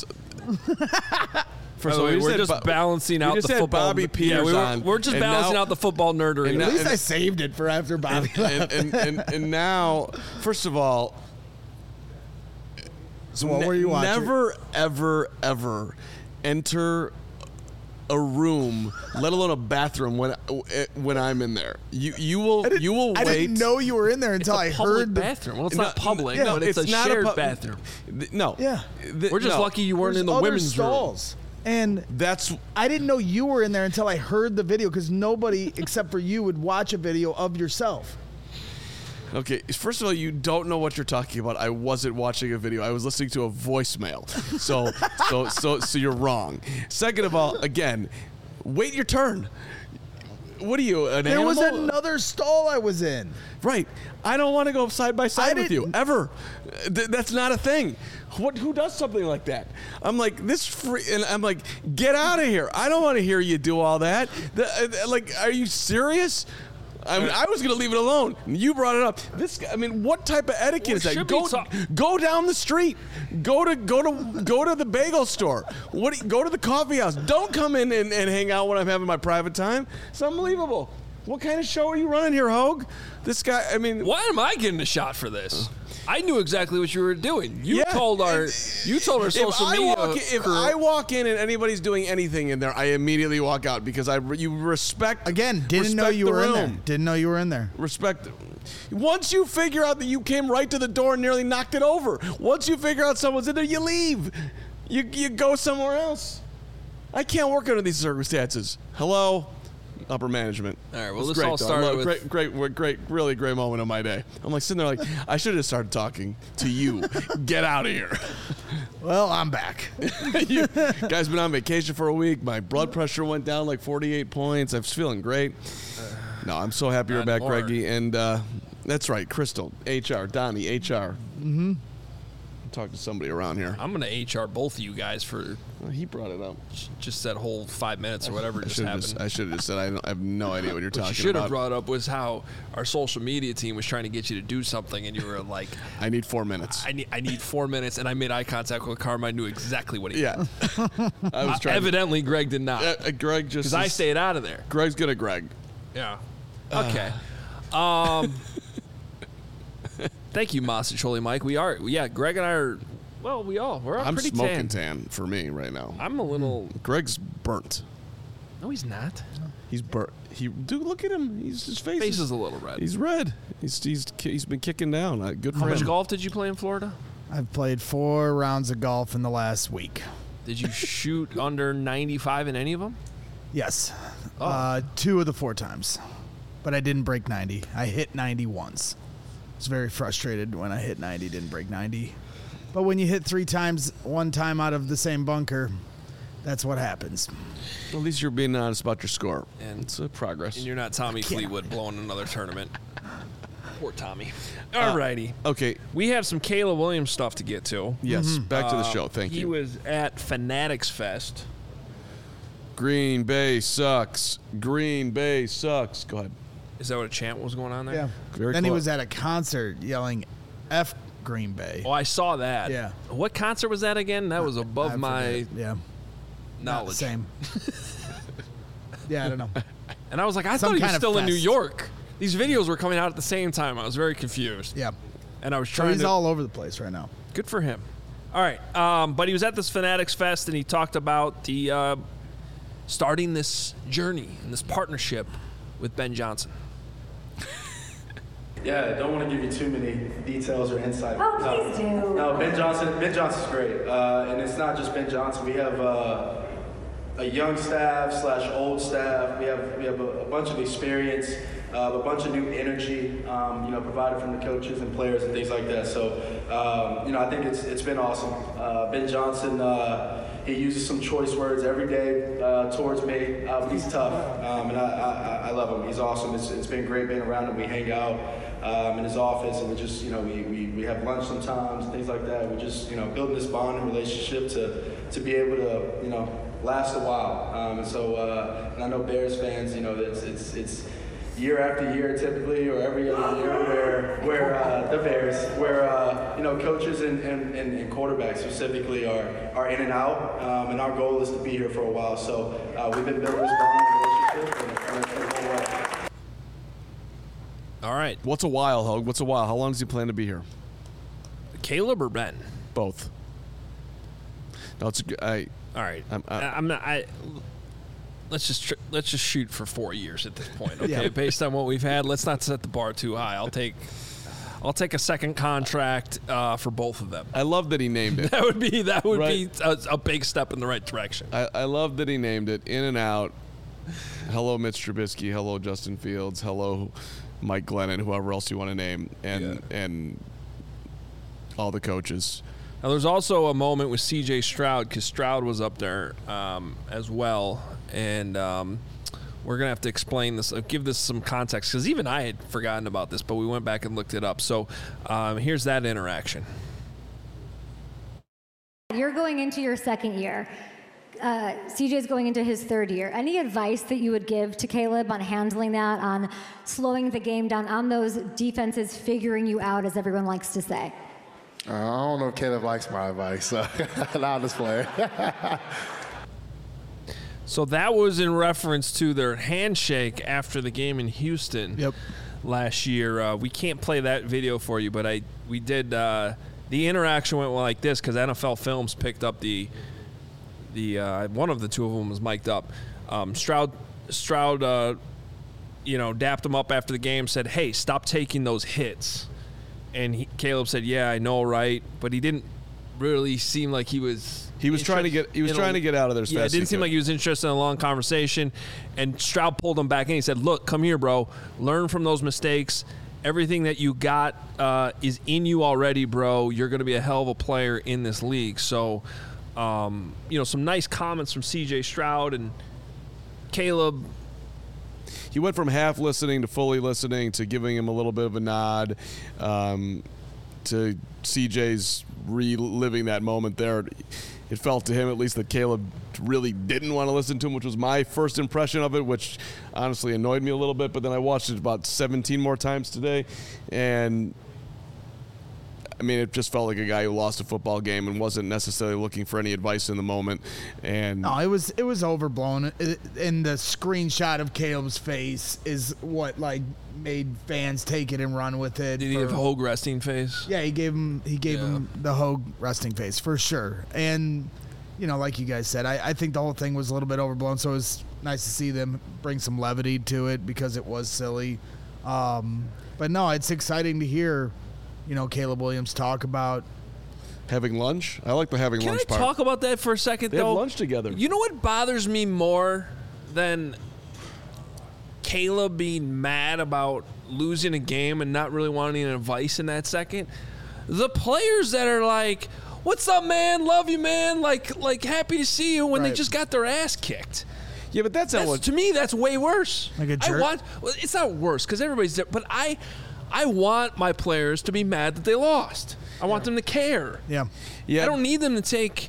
First of all, we're just balancing out the football. Bobby Peters on. We're just balancing out the football nerdery. At least I saved it for after Bobby left. And now, first of all, So what were you watching? never, ever, ever enter a room, let alone a bathroom, when I'm in there. You will wait. I didn't know you were in there until I heard the bathroom. Well, it's not public, but it's a not shared a bathroom. No. Yeah. We're just lucky you weren't in the other women's room. stalls. And That's I didn't know you were in there until I heard the video because nobody except for you would watch a video of yourself. okay. First of all, you don't know what you're talking about. I wasn't watching a video. I was listening to a voicemail. So you're wrong. Second of all, again, wait your turn. What are you, an There animal? was another stall I was in. Right. I don't want to go side by side with you didn't- ever. That's not a thing. Who does something like that? I'm like and I'm like, get out of here. I don't want to hear you do all that. Are you serious? I was going to leave it alone. You brought it up. What type of etiquette is that? Go down the street. Go to the bagel store. Go to the coffee house. Don't come in and hang out when I'm having my private time. It's unbelievable. What kind of show are you running here, Hogue? This guy, Why am I getting a shot for this? I knew exactly what you were doing. You Yeah, told our social media. If I walk in and anybody's doing anything in there, I immediately walk out because you respect. Again, didn't know respect you the were in room. there. Didn't know you were in there. Respect. Once you figure out that you came right to the door and nearly knocked it over, once you figure out someone's in there, you leave. You go somewhere else. I can't work under these circumstances. Hello? Upper management. All right, well, It's this great, all though. started great, really great moment of my day. I'm like sitting there like, I should have started talking to you. Get out of here. Well, I'm back. You guys been on vacation for a week. My blood pressure went down like 48 points. I'm feeling great. No, I'm so happy you're Not back, anymore. Greggy. And that's right, Crystal, HR, Donnie, HR. Mm-hmm. Talk to somebody around here. I'm going to HR both of you guys for He brought it up. just that whole 5 minutes or whatever just happened. I should have just said I have no idea what you're What talking you should have about. brought up was how our social media team was trying to get you to do something, and you were like, I need 4 minutes. I need 4 minutes, and I made eye contact with Carm. I knew exactly what he Yeah. I was trying. Evidently, Greg did not, Greg just. because I stayed out of there. Greg's good at Greg. Yeah. Okay. Thank you, Masacholi Mike. Greg and I are Well, we're all I'm pretty smoking tan for me right now. I'm a little. Greg's burnt. No, he's not. He's burnt. Dude, look at him. His face is a little red. He's red. He's been kicking down. Good for How him. much golf did you play in Florida? I've played 4 rounds of golf in the last week. Did you shoot under 95 in any of them? Yes. Oh. 2 of the 4 times. But I didn't break 90. I hit 90 once. I was very frustrated when I hit 90, didn't break 90. But when you hit 3 times, 1 time out of the same bunker, that's what happens. At least you're being honest about your score. And it's a progress. And you're not Tommy Fleetwood blowing another tournament. Poor Tommy. All righty. Okay. We have some Caleb Williams stuff to get to. Yes, back to the show. Thank you. He was at Fanatics Fest. Green Bay sucks. Green Bay sucks. Go ahead. Is that what a chant was going on there? Yeah. Very then he close. was at a concert yelling F Green Bay. Oh, I saw that. Yeah. What concert was that again? That was above my knowledge. Same. Yeah, I don't know. And I was like, I Some thought he was kind of still in New fest. York. These videos were coming out at the same time. I was very confused. Yeah. And I was So trying he's to. all over the place right now. Good for him. All right. But he was at this Fanatics Fest and he talked about the starting this journey and this partnership with Ben Johnson. Yeah, I don't want to give you too many details or insight. Oh, please do. No, Ben Johnson's great. And it's not just Ben Johnson. We have a young staff / old staff. We have a bunch of experience, a bunch of new energy, provided from the coaches and players and things like that. So, I think it's been awesome. Ben Johnson, he uses some choice words every day towards me, but he's tough, and I love him. He's awesome. It's been great being around him. We hang out in his office, and we just, we have lunch sometimes, things like that. We're just, building this bond and relationship to be able to, last a while. And I know Bears fans, it's year after year typically, or every other year where the Bears, coaches and quarterbacks specifically are in and out, and our goal is to be here for a while. So we've been building this bond and relationship, and it's been going well. All right. What's a while, Hogue? What's a while? How long does he plan to be here? Caleb or Ben? Both. No, it's All right. I'm not. Let's just shoot for 4 years at this point. Okay, based on what we've had, let's not set the bar too high. I'll take a second contract for both of them. I love that he named it. That would be Right. a big step in the right direction. I love that he named it in and out. Hello, Mitch Trubisky. Hello, Justin Fields. Hello, Mike Glennon. Whoever else you want to name, and all the coaches. Now, there's also a moment with C.J. Stroud because Stroud was up there as well, and we're gonna have to explain this, give this some context because even I had forgotten about this, but we went back and looked it up. So here's that interaction. You're going into your second year. CJ's going into his third year. Any advice that you would give to Caleb on handling that, on slowing the game down, on those defenses figuring you out, as everyone likes to say? I don't know if Caleb likes my advice, so I'll just play. So that was in reference to their handshake after the game in Houston last year. We can't play that video for you, but we did. The interaction went like this because NFL Films picked up the one of the two of them was mic'd up. Stroud, dapped him up after the game, said, "Hey, stop taking those hits." And Caleb said, "Yeah, I know, right?" But he didn't really seem like he was. He was trying to get out of there as fast as he it didn't seem could. like he was interested in a long conversation. And Stroud pulled him back in. He said, "Look, come here, bro. Learn from those mistakes. Everything that you got is in you already, bro. You're going to be a hell of a player in this league." So, some nice comments from C.J. Stroud and Caleb. He went from half listening to fully listening to giving him a little bit of a nod to CJ's reliving that moment there. It felt to him, at least, that Caleb really didn't want to listen to him, which was my first impression of it, which honestly annoyed me a little bit. But then I watched it about 17 more times today, and I mean, it just felt like a guy who lost a football game and wasn't necessarily looking for any advice in the moment. And no, it was overblown. And the screenshot of Caleb's face is what like made fans take it and run with it. Did he have Hogue resting face? Yeah, he gave him the Hogue resting face for sure. And like you guys said, I think the whole thing was a little bit overblown. So it was nice to see them bring some levity to it because it was silly. But no, it's exciting to hear, Caleb Williams talk about having lunch. I like the having lunch part. Can I talk about that for a second, They though? have lunch together. You know what bothers me more than Caleb being mad about losing a game and not really wanting advice in that second? The players that are like, "What's up, man? Love you, man. Like happy to see you," when they just got their ass kicked. Yeah, but that's not what. To me, that's way worse. Like a jerk? It's not worse because everybody's there, but I want my players to be mad that they lost. I want them to care. Yeah. Yeah. I don't need them to take,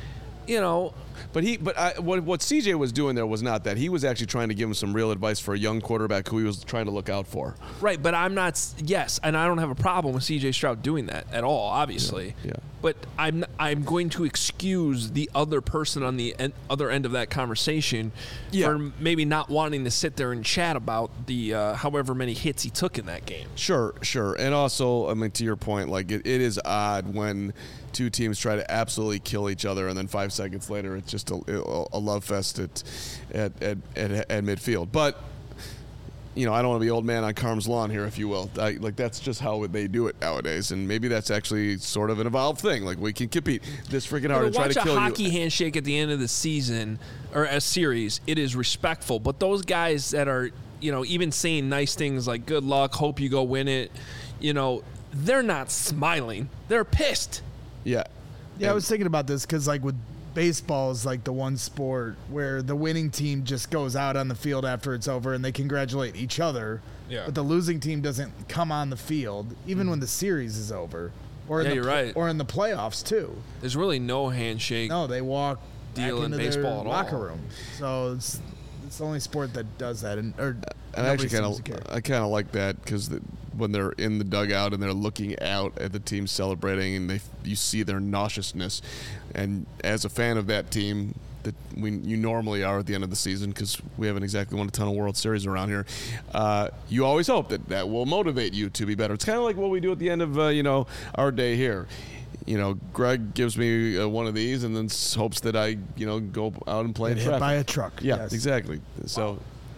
But what CJ was doing there was not that. He was actually trying to give him some real advice for a young quarterback who he was trying to look out for. Right, but I'm not. Yes, and I don't have a problem with CJ Stroud doing that at all, obviously. Yeah. But I'm going to excuse the other person on the other end of that conversation for maybe not wanting to sit there and chat about the however many hits he took in that game. Sure. And also, I mean, to your point, like it is odd when two teams try to absolutely kill each other, and then 5 seconds later, it's just a love fest at midfield. But I don't want to be old man on Carm's lawn here, if you will. That's just how they do it nowadays, and maybe that's actually sort of an evolved thing. Like we can compete this freaking hard and try to kill you. Watch a hockey handshake at the end of the season or a series. It is respectful, but those guys that are even saying nice things like "good luck," "hope you go win it," they're not smiling. They're pissed. Yeah. I was thinking about this because, like, with baseball is like the one sport where the winning team just goes out on the field after it's over and they congratulate each other. Yeah. But the losing team doesn't come on the field even when the series is over. Or you're right. Or in the playoffs too. There's really no handshake. No, they walk deal back in into baseball their at all. locker room. So it's the only sport that does that. And I actually kind of like that because when they're in the dugout and they're looking out at the team celebrating and you see their nauseousness, and as a fan of that team that you normally are at the end of the season because we haven't exactly won a ton of World Series around here, you always hope that will motivate you to be better. It's kind of like what we do at the end of our day here. Greg gives me one of these and then hopes that I go out and play in traffic. Hit by a truck. Yeah, yes. exactly. So.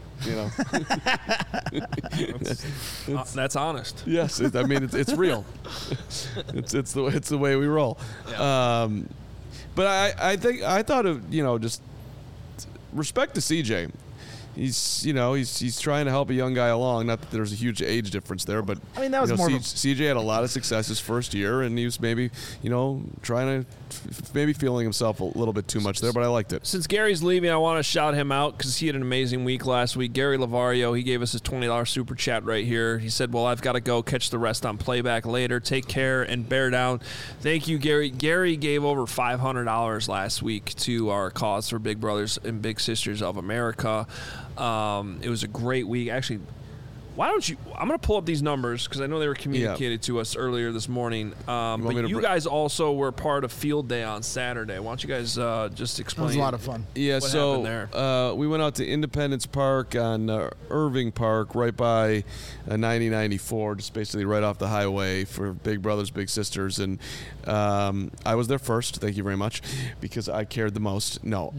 That's honest. Yes, it's real. it's the way we roll. Yeah. But I thought of just respect to CJ. He's trying to help a young guy along. Not that there's a huge age difference there, but I mean that was more. CJ had a lot of success his first year, and he was maybe trying to maybe feeling himself a little bit too much there. But I liked it. Since Gary's leaving, I want to shout him out because he had an amazing week last week. Gary Lavario, he gave us his $20 super chat right here. He said, "Well, I've got to go catch the rest on playback later. Take care and bear down." Thank you, Gary. Gary gave over $500 last week to our cause for Big Brothers and Big Sisters of America. It was a great week. Actually, why don't you? I'm going to pull up these numbers because I know they were communicated to us earlier this morning. But you guys also were part of Field Day on Saturday. Why don't you guys just explain? It was a lot of fun. Yeah, what happened there? We went out to Independence Park on Irving Park, right by 9094, just basically right off the highway for Big Brothers Big Sisters, and I was there first. Thank you very much, because I cared the most. No,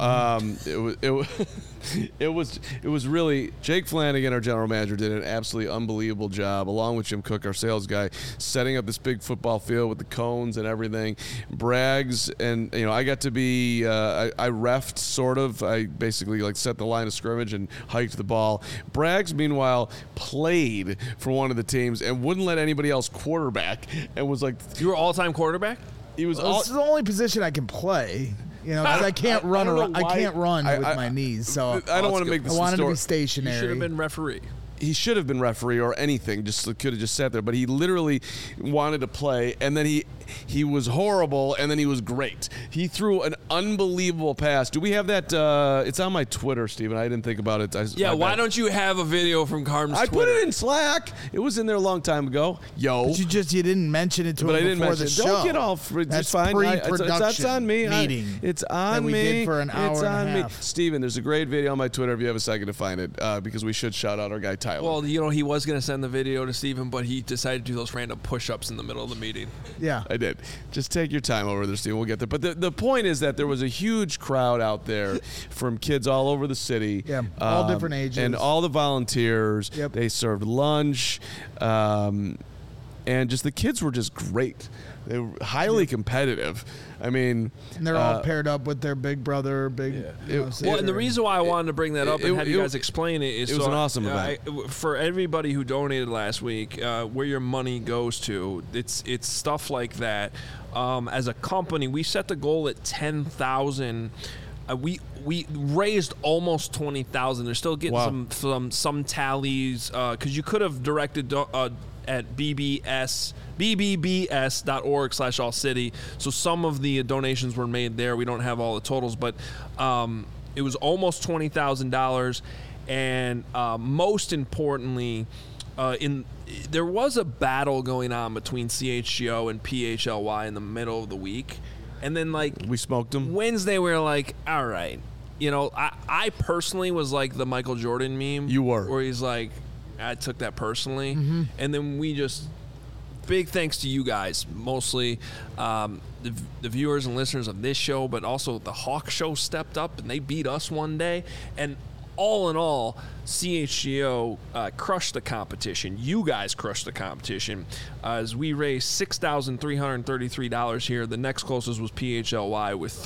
it was really Jake Flanagan, our general manager, did an absolutely unbelievable job, along with Jim Cook, our sales guy, setting up this big football field with the cones and everything. Braggs, and I got to be I reffed sort of. I basically set the line of scrimmage and hiked the ball. Braggs, meanwhile, played for one of the teams and wouldn't let anybody else quarterback, and was like, You were all-time quarterback? He was. This is the only position I can play. Because I can't run. I can't run with my knees. So I don't want to make this. I wanted to be You stationary. should have been referee. he should have been referee or anything. Just could have just sat there. But he literally wanted to play, and then he was horrible, and then he was great. He threw an unbelievable pass. Do we have that? It's on my Twitter, Steven. I didn't think about it. Why don't you have a video from Carm's I Twitter? put it in Slack. It was in there a long time ago. But you didn't mention it to but him I didn't before mention the it. show. Don't get all That's it's fine. pre-production It's on me. meeting It's on that we me. did for an hour it's and a on half. me. Steven, there's a great video on my Twitter if you have a second to find it, because we should shout out our guy Tyler. Well, he was going to send the video to Steven, but he decided to do those random push-ups in the middle of the meeting. Yeah. I did. Just take your time over there, Steven. We'll get there. But the point is that there was a huge crowd out there from kids all over the city. Yeah, all different ages. And all the volunteers. Yep. They served lunch. And just the kids were just great. They were highly competitive. I mean, And they're all paired up with their big brother, Well, and the reason why I wanted to bring that up and have you guys explain it is it was an awesome event. For everybody who donated last week, where your money goes to, it's stuff like that. As a company, we set the goal at 10,000. We raised almost 20,000. They're still getting some tallies because you could have directed at bbbs.org/allcity. So some of the donations were made there. We don't have all the totals, but it was almost $20,000. And most importantly, there was a battle going on between CHGO and PHLY in the middle of the week. And then, we smoked them. Wednesday, we were like, all right. I personally was like the Michael Jordan meme. You were. Where he's like, I took that personally. Mm-hmm. And then we just, big thanks to you guys, mostly the viewers and listeners of this show, but also the Hawk Show stepped up and they beat us one day. And all in all, CHGO crushed the competition. You guys crushed the competition as we raised $6,333 here. The next closest was PHLY with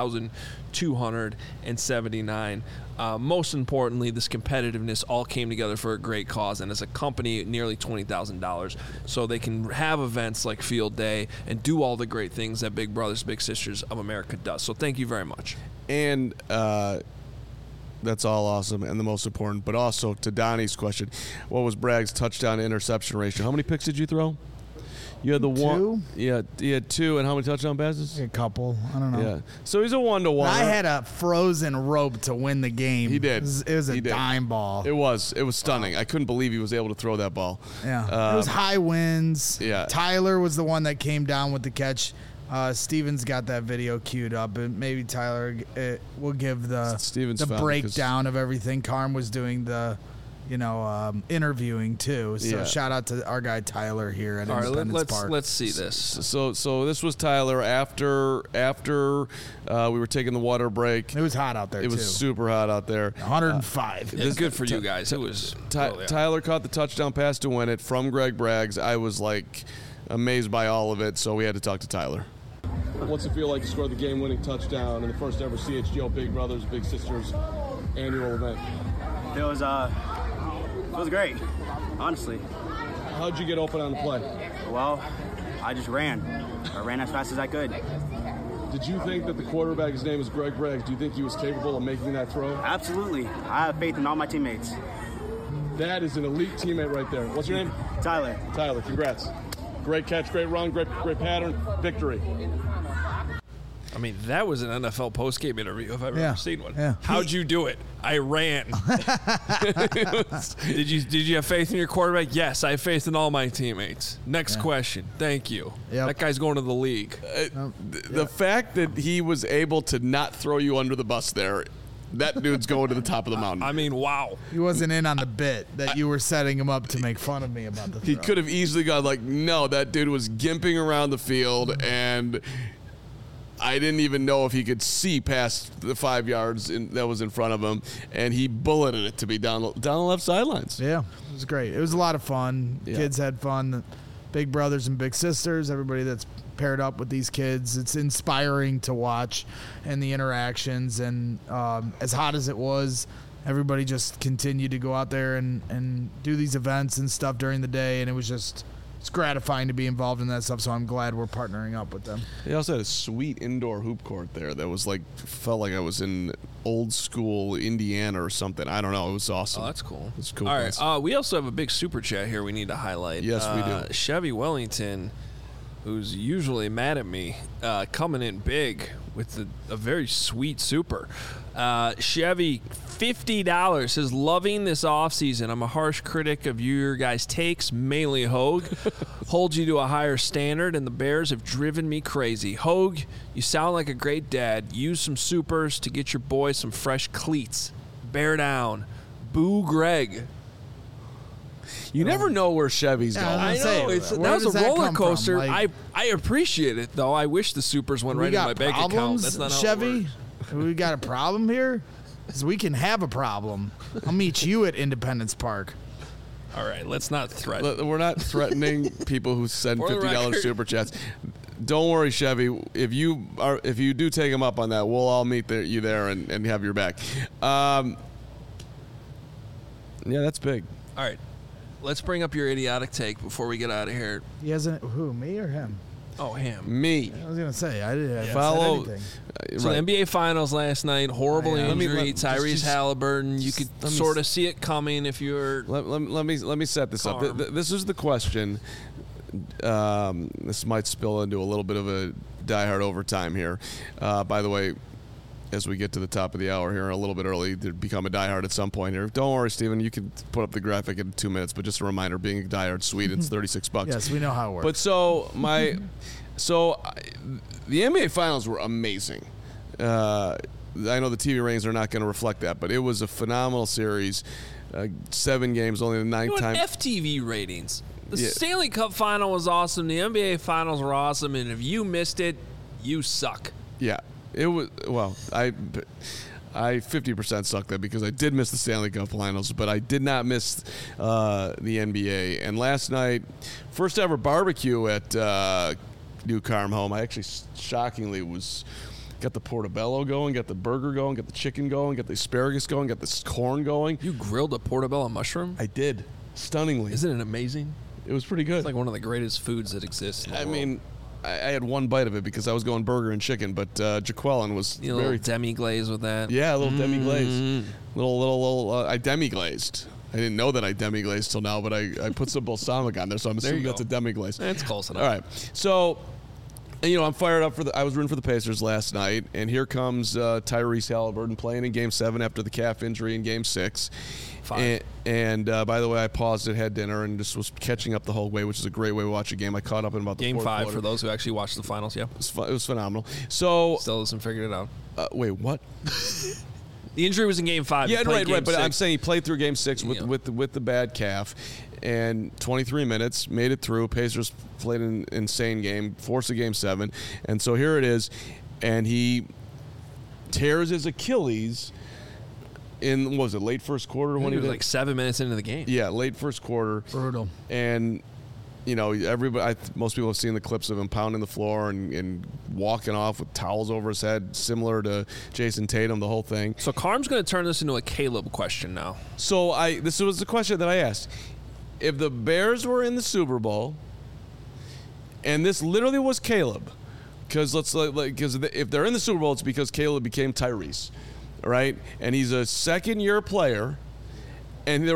$3,279. Most importantly, this competitiveness all came together for a great cause, and as a company, nearly $20,000. So they can have events like Field Day and do all the great things that Big Brothers Big Sisters of America does. So thank you very much. And that's all awesome and the most important. But also to Donnie's question, what was Bragg's touchdown to interception ratio? How many picks did you throw? You had the one. Yeah, you had 2. And how many touchdown passes? A couple. I don't know. Yeah. So he's a 1-to-1. I had a frozen rope to win the game. He did. It was a dime ball. It was stunning. I couldn't believe he was able to throw that ball. Yeah. It was high winds. Yeah. Tyler was the one that came down with the catch. Steven's got that video queued up, and maybe Tyler will give the breakdown of everything. Carm was doing the, interviewing too. So shout out to our guy Tyler here at Independence Park. Let's see this. So this was Tyler after we were taking the water break. It was hot out there. It was super hot out there. 105. It's good for you guys. It was. Tyler caught the touchdown pass to win it from Greg Braggs. I was amazed by all of it. So we had to talk to Tyler. What's it feel like to score the game-winning touchdown in the first ever CHGO Big Brothers Big Sisters annual event? It was great, honestly. How'd you get open on the play? Well, I just ran. I ran as fast as I could. Did you think that the quarterback, his name is Greg Braggs, do you think he was capable of making that throw? Absolutely. I have faith in all my teammates. That is an elite teammate right there. What's your name? Tyler. Tyler, congrats. Great catch, great run, great pattern, victory. I mean, that was an NFL postgame interview if I've ever seen one. Yeah. How'd you do it? I ran. Did you have faith in your quarterback? Yes, I have faith in all my teammates. Next question. Thank you. Yep. That guy's going to the league. The fact that he was able to not throw you under the bus there, that dude's going to the top of the mountain. I mean, wow. He wasn't in on the bit that you were setting him up to make fun of me about the throw. He could have easily gone no, that dude was gimping around the field, and I didn't even know if he could see past the 5 yards that was in front of him, and he bulleted it to be down the left sidelines. Yeah, it was great. It was a lot of fun. Yeah. Kids had fun. Big brothers and big sisters, everybody that's paired up with these kids. It's inspiring to watch and the interactions. And as hot as it was, everybody just continued to go out there and do these events and stuff during the day. And it was just it's gratifying to be involved in that stuff. So I'm glad we're partnering up with them. They also had a sweet indoor hoop court there that was like felt like I was in old school Indiana or something. I don't know. It was awesome. Oh, that's cool. It's cool. All right. We also have a big super chat here we need to highlight. Yes, we do. Chevy Wellington, who's usually mad at me, coming in big with a very sweet super. Chevy, $50, says, loving this offseason. I'm a harsh critic of your guys' takes, mainly Hogue. Hold you to a higher standard, and the Bears have driven me crazy. Hogue, you sound like a great dad. Use some supers to get your boy some fresh cleats. Bear down. Boo Greg. You never know where Chevy's going. I know. That was a roller coaster. I appreciate it, though. I wish the supers went right in my bank account. That's not how Chevy? it works. We got a problem here? Because we can have a problem. I'll meet you at Independence Park. All right, let's not threaten. We're not threatening people who send $50 super chats. Don't worry, Chevy. If you do take him up on that, we'll all meet you there and have your back. Yeah, that's big. All right, let's bring up your idiotic take before we get out of here. He hasn't. Who? Me or him? Oh, him. Me. I was gonna say I didn't follow. said anything. So the NBA Finals last night, horrible injury. Tyrese Halliburton. You could sort of see it coming if you're. Let me set this up. This is the question. This might spill into a little bit of a diehard overtime here. By the way, as we get to the top of the hour here, a little bit early, to become a diehard at some point here. Don't worry, Steven. You can put up the graphic in 2 minutes, but just a reminder: being a diehard sweet, it's $36. Yes, we know how it works. But the NBA Finals were amazing. I know the TV ratings are not going to reflect that, but it was a phenomenal series. 7 games, only the ninth time. FTV ratings. The Stanley Cup Final was awesome. The NBA Finals were awesome, and if you missed it, you suck. Yeah, it was. Well, I 50% sucked that because I did miss the Stanley Cup Finals, but I did not miss the NBA. And last night, first ever barbecue at New Carm Home. I actually shockingly got the portobello going, got the burger going, got the chicken going, got the asparagus going, got the corn going. You grilled a portobello mushroom? I did. Stunningly. Isn't it amazing? It was pretty good. It's like one of the greatest foods that exists in the world. mean, I had one bite of it because I was going burger and chicken, but Jaqueline was very... little demi-glaze with that. Yeah, a little demi-glaze. Little I demi-glazed. I didn't know that I demi-glazed till now, but I put some balsamic on there, so I'm assuming that's a demi-glaze. That's close enough. All right. So... And, I'm fired up I was rooting for the Pacers last night, and here comes Tyrese Halliburton playing in Game 7 after the calf injury in Game 6. And by the way, I paused it, had dinner, and just was catching up the whole way, which is a great way to watch a game. I caught up in about the Game fourth 5 quarter. for those who actually watched the finals, yeah. It was phenomenal. So still hasn't figured it out. Wait, what? The injury was in Game 5. Yeah, right. But I'm saying he played through Game 6 with the bad calf. And 23 minutes, made it through. Pacers played an insane game, forced a Game 7. And so here it is. And he tears his Achilles in, what was it, late first quarter? When he was like 7 minutes into the game. Yeah, late first quarter. Brutal. And, most people have seen the clips of him pounding the floor and walking off with towels over his head, similar to Jason Tatum, the whole thing. So Carm's going to turn this into a Caleb question now. So this was the question that I asked. If the Bears were in the Super Bowl, and this literally was Caleb, because if they're in the Super Bowl, it's because Caleb became Tyrese, right? And he's a second-year player, and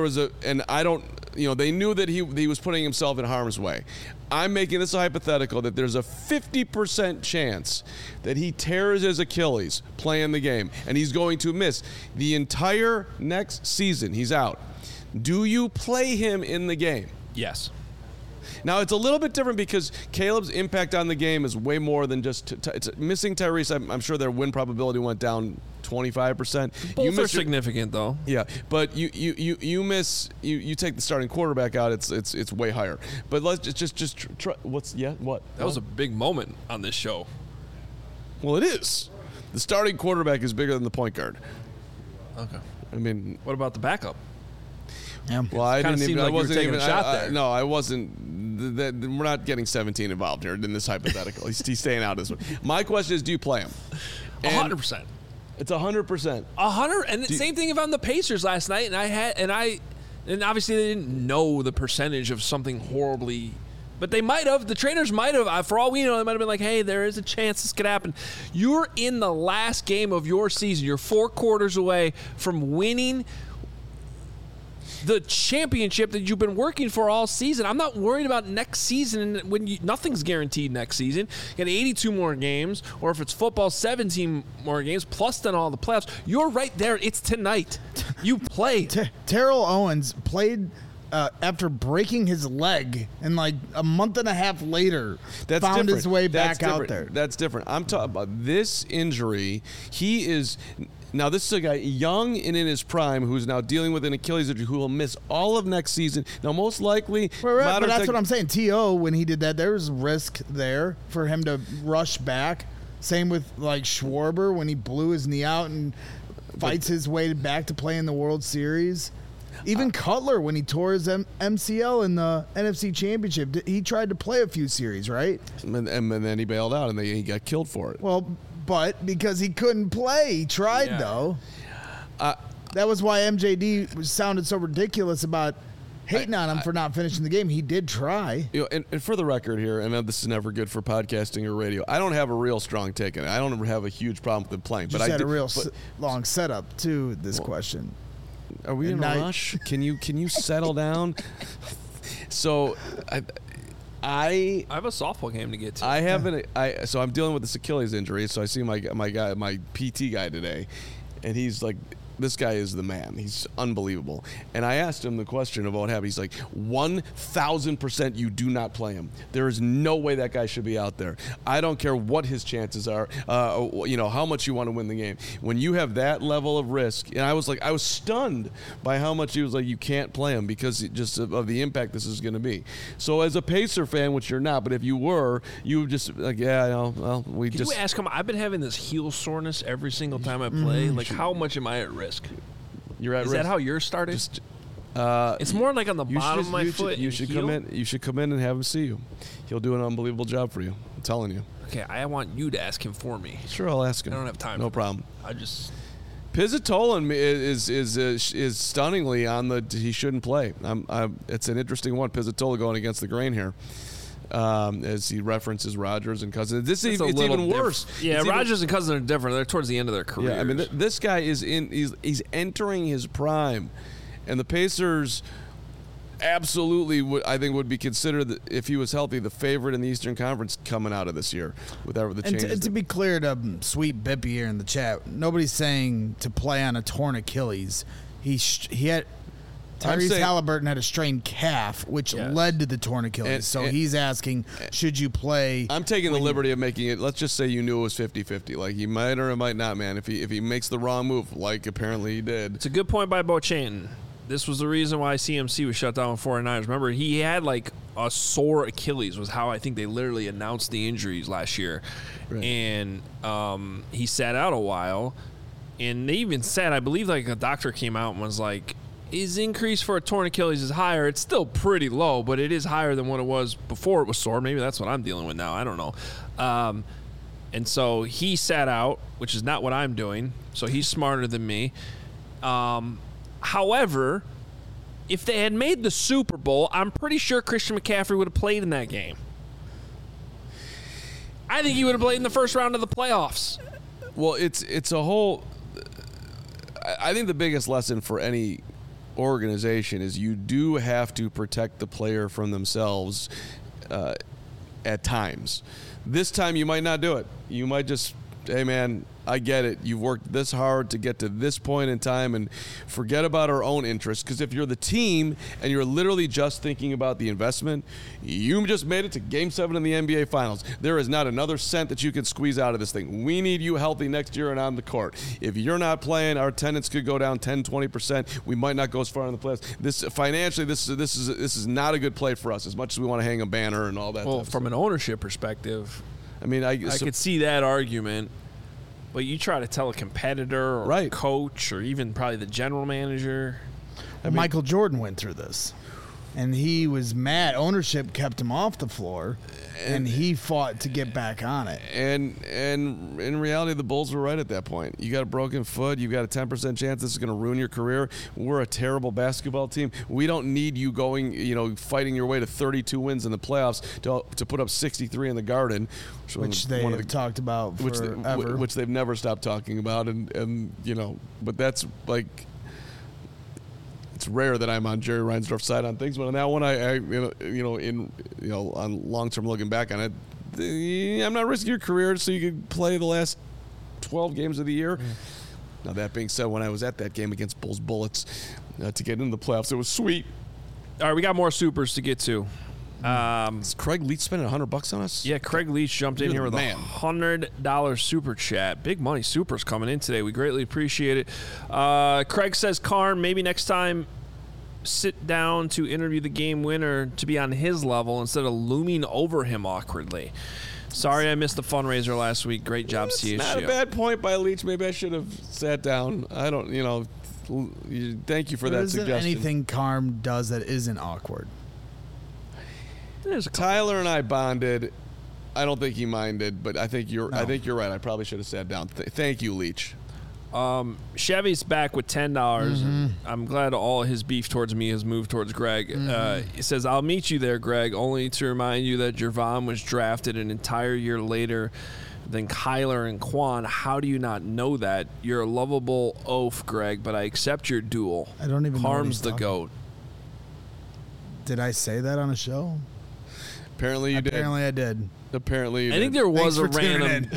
they knew that he was putting himself in harm's way. I'm making this a hypothetical that there's a 50% chance that he tears his Achilles playing the game, and he's going to miss the entire next season. He's out. Do you play him in the game? Yes. Now, it's a little bit different because Caleb's impact on the game is way more than just it's missing Tyrese. I'm sure their win probability went down 25%. Both are significant, though. Yeah, but you take the starting quarterback out, it's way higher. But let's just try. What? That was a big moment on this show. Well, it is. The starting quarterback is bigger than the point guard. Okay. I mean, what about the backup? Yeah. Well, I didn't even. I wasn't even. A shot there. No, I wasn't. We're not getting 17 involved here in this hypothetical. He's staying out of this one. My question is, do you play him? 100%. It's 100%. 100. And the same thing if I'm the Pacers last night, and obviously they didn't know the percentage of something horribly But they might have. The trainers might have. For all we know, they might have been like, hey, there is a chance this could happen. You're in the last game of your season. You're 4 quarters away from winning the championship that you've been working for all season. I'm not worried about next season when nothing's guaranteed next season. You got 82 more games, or if it's football, 17 more games, plus then all the playoffs. You're right there. It's tonight. You play. Terrell Owens played after breaking his leg, and like a month and a half later, found his way back out there. That's different. I'm talking about this injury. He is... Now, this is a guy young and in his prime who's now dealing with an Achilles injury who will miss all of next season. Now, most likely... Right, but that's what I'm saying. T.O., when he did that, there was risk there for him to rush back. Same with, like, Schwarber when he blew his knee out and fights his way back to play in the World Series. Even Cutler, when he tore his MCL in the NFC Championship, he tried to play a few series, right? And then he bailed out, and he got killed for it. Well... But because he couldn't play, he tried though. That was why MJD sounded so ridiculous about hating on him for not finishing the game. He did try. And for the record here, and this is never good for podcasting or radio, I don't have a real strong take on it. I don't have a huge problem with him playing. But I had a real long setup to this question. Are we in a rush? Can you settle down? So I have a softball game to get to. So I'm dealing with this Achilles injury. So I see my PT guy today, and he's like, this guy is the man. He's unbelievable. And I asked him the question about what happened. He's like, 1,000% you do not play him. There is no way that guy should be out there. I don't care what his chances are, how much you want to win the game. When you have that level of risk, and I was stunned by how much he was like, you can't play him because just of the impact this is going to be. So as a Pacer fan, which you're not, but if you were, you would just like, Can you ask him? I've been having this heel soreness every single time I play. Like, how much am I at risk? You're at risk. Is that how yours started? It's more like on the bottom of my foot. You should come in. You should come in and have him see you. He'll do an unbelievable job for you. I'm telling you. Okay, I want you to ask him for me. Sure, I'll ask him. I don't have time. No problem. Pizzatola is stunningly on the. He shouldn't play. It's an interesting one. Pizzatola going against the grain here. As he references Rodgers and Cousins. It's even worse. Yeah, Rodgers and Cousins are different. They're towards the end of their career. Yeah, I mean, this guy is he's entering his prime, and the Pacers absolutely would be considered, if he was healthy, the favorite in the Eastern Conference coming out of this year with the changes. And to be clear to Sweet Bippy here in the chat, nobody's saying to play on a torn Achilles. He had. Tyrese Halliburton had a strained calf, which led to the torn Achilles. So he's asking, should you play? I'm taking the liberty of making it, let's just say you knew it was 50-50. Like, he might or might not, man. If he makes the wrong move, like apparently he did. It's a good point by Beauchamp. This was the reason why CMC was shut down with 49ers. Remember, he had like a sore Achilles was how I think they literally announced the injuries last year. Right. And he sat out a while. And they even said, I believe like a doctor came out and was like, his increase for a torn Achilles is higher. It's still pretty low, but it is higher than what it was before it was sore. Maybe that's what I'm dealing with now. I don't know. And so he sat out, which is not what I'm doing. So he's smarter than me. However, if they had made the Super Bowl, I'm pretty sure Christian McCaffrey would have played in that game. I think he would have played in the first round of the playoffs. Well, it's a whole. I think the biggest lesson for any organization is you do have to protect the player from themselves at times. This time you might not do it. You might just, hey man, I get it. You've worked this hard to get to this point in time, and forget about our own interests. Because if you're the team and you're literally just thinking about the investment, you just made it to Game 7 in the NBA Finals. There is not another cent that you can squeeze out of this thing. We need you healthy next year and on the court. If you're not playing, our attendance could go down 10, 20%. We might not go as far in the playoffs. This financially, this is not a good play for us. As much as we want to hang a banner and all that. Well, from an ownership perspective, I mean, I could see that argument. But you try to tell a competitor or a coach or even probably the general manager. Michael Jordan went through this. and he was mad. Ownership kept him off the floor, and he fought to get back on it. And in reality, the Bulls were right at that point. You got a broken foot. You've got a 10% chance this is going to ruin your career. We're a terrible basketball team. We don't need you going, fighting your way to 32 wins in the playoffs to put up 63 in the Garden, which they have talked about forever. Which they've never stopped talking about. And but that's like, it's rare that I'm on Jerry Reinsdorf's side on things, but on that one, on long-term looking back on it, I'm not risking your career so you could play the last 12 games of the year. Now, that being said, when I was at that game against Bulls Bullets to get into the playoffs, it was sweet. All right, we got more supers to get to. Is Craig Leach spending $100 on us? Yeah, Craig Leach jumped in here with a $100 super chat. Big money supers coming in today. We greatly appreciate it. Craig says, Karn, maybe next time sit down to interview the game winner to be on his level instead of looming over him awkwardly. Sorry I missed the fundraiser last week. Great job, CHGO. It's not a bad point by Leach. Maybe I should have sat down. I don't, thank you for that suggestion. There isn't anything Karn does that isn't awkward. Tyler and I bonded. I don't think he minded, but I think you're right. I probably should have sat down. Thank you, Leach. Chevy's back with $10. I'm glad all his beef towards me has moved towards Greg. He says, I'll meet you there, Greg, only to remind you that Jervon was drafted an entire year later than Kyler and Quan. How do you not know that? You're a lovable oaf, Greg, but I accept your duel. I don't even know what he's the talking. GOAT. Did I say that on a show? Apparently you did. Apparently I did. Apparently you I did. think there was a random.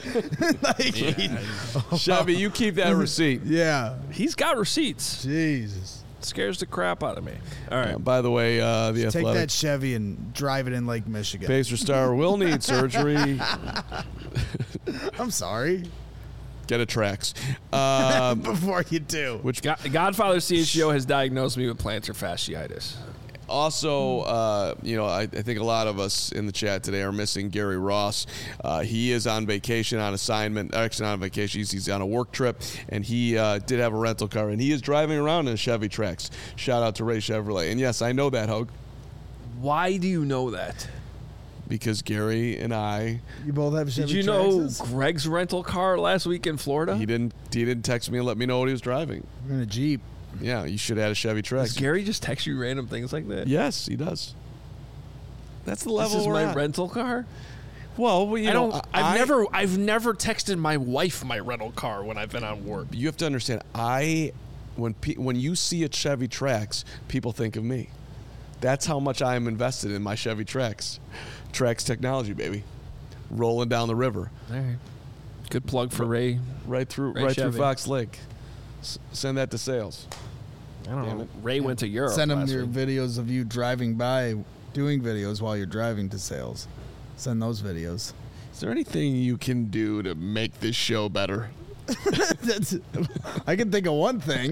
Chevy, you keep that receipt. Yeah. He's got receipts. Jesus. Scares the crap out of me. All right. By the way, the Take Athletic that Chevy and drive it in Lake Michigan. Pacer star will need surgery. I'm sorry. Get a Trax. Before you do. Which Godfather CHGO has diagnosed me with plantar fasciitis. Also, I think a lot of us in the chat today are missing Gary Ross. He is on vacation, on assignment. Actually, not on vacation. He's on a work trip, and he did have a rental car, and he is driving around in a Chevy Trax. Shout out to Ray Chevrolet. And yes, I know that, Hogue. Why do you know that? Because Gary and I. You both have Chevy Did you Traxes? know Greg's rental car last week in Florida? He didn't text me and let me know what he was driving. We're in a Jeep. Yeah, you should have had a Chevy Trax. Does Gary just text you random things like that? Yes, he does. That's the level This is we're my at. Rental car? Well, I've never texted my wife my rental car when I've been on work. You have to understand, when you see a Chevy Trax, people think of me. That's how much I am invested in my Chevy Trax. Trax technology, baby. Rolling down the river. All right. Good plug for Ray. Right through Chevy. Fox Lake. Send that to sales. I don't know. Ray went to Europe. Send them last your week. videos of you driving by, doing videos while you're driving to sales. Send those videos. Is there anything you can do to make this show better? I can think of one thing.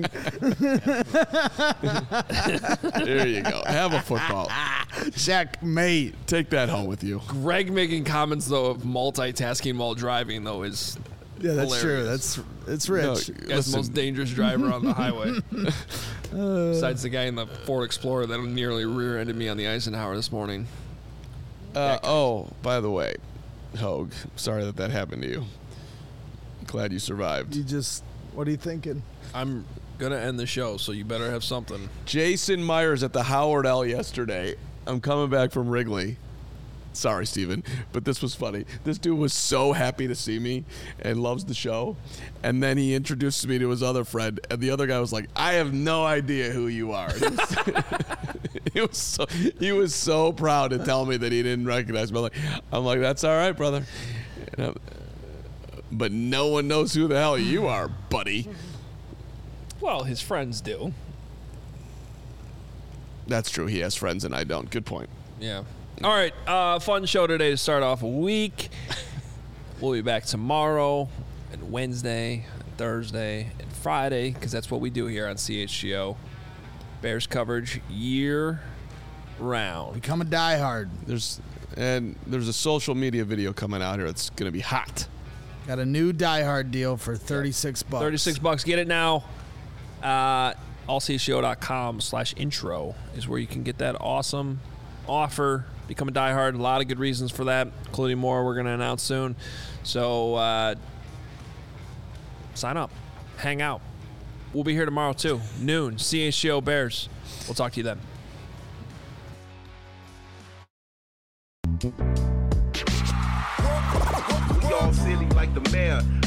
There you go. Have a football. Checkmate. Take that home with you. Greg making comments, though, of multitasking while driving, though, is Yeah, that's hilarious. true. It's rich. Guy's the most dangerous driver on the highway. Besides the guy in the Ford Explorer that nearly rear-ended me on the Eisenhower this morning. By the way, Hogue, sorry that happened to you. Glad you survived. What are you thinking? I'm going to end the show, so you better have something. Jason Myers at the Howard L yesterday. I'm coming back from Wrigley. Sorry, Steven, but this was funny. This dude was so happy to see me and loves the show. And then he introduces me to his other friend, and the other guy was like, I have no idea who you are. He was so proud to tell me that he didn't recognize me. I'm like, that's all right, brother. But no one knows who the hell you are, buddy. Well, his friends do. That's true. He has friends and I don't. Good point. Yeah. All right. Fun show today to start off a week. We'll be back tomorrow and Wednesday and Thursday and Friday because that's what we do here on CHGO. Bears coverage year round. Become a diehard. There's a social media video coming out here that's going to be hot. Got a new diehard deal for $36. $36. Get it now. allcshow.com/intro is where you can get that awesome offer. Become a diehard. A lot of good reasons for that, including more we're going to announce soon. So sign up. Hang out. We'll be here tomorrow, too. Noon. CHGO Bears. We'll talk to you then. We all silly like the mayor.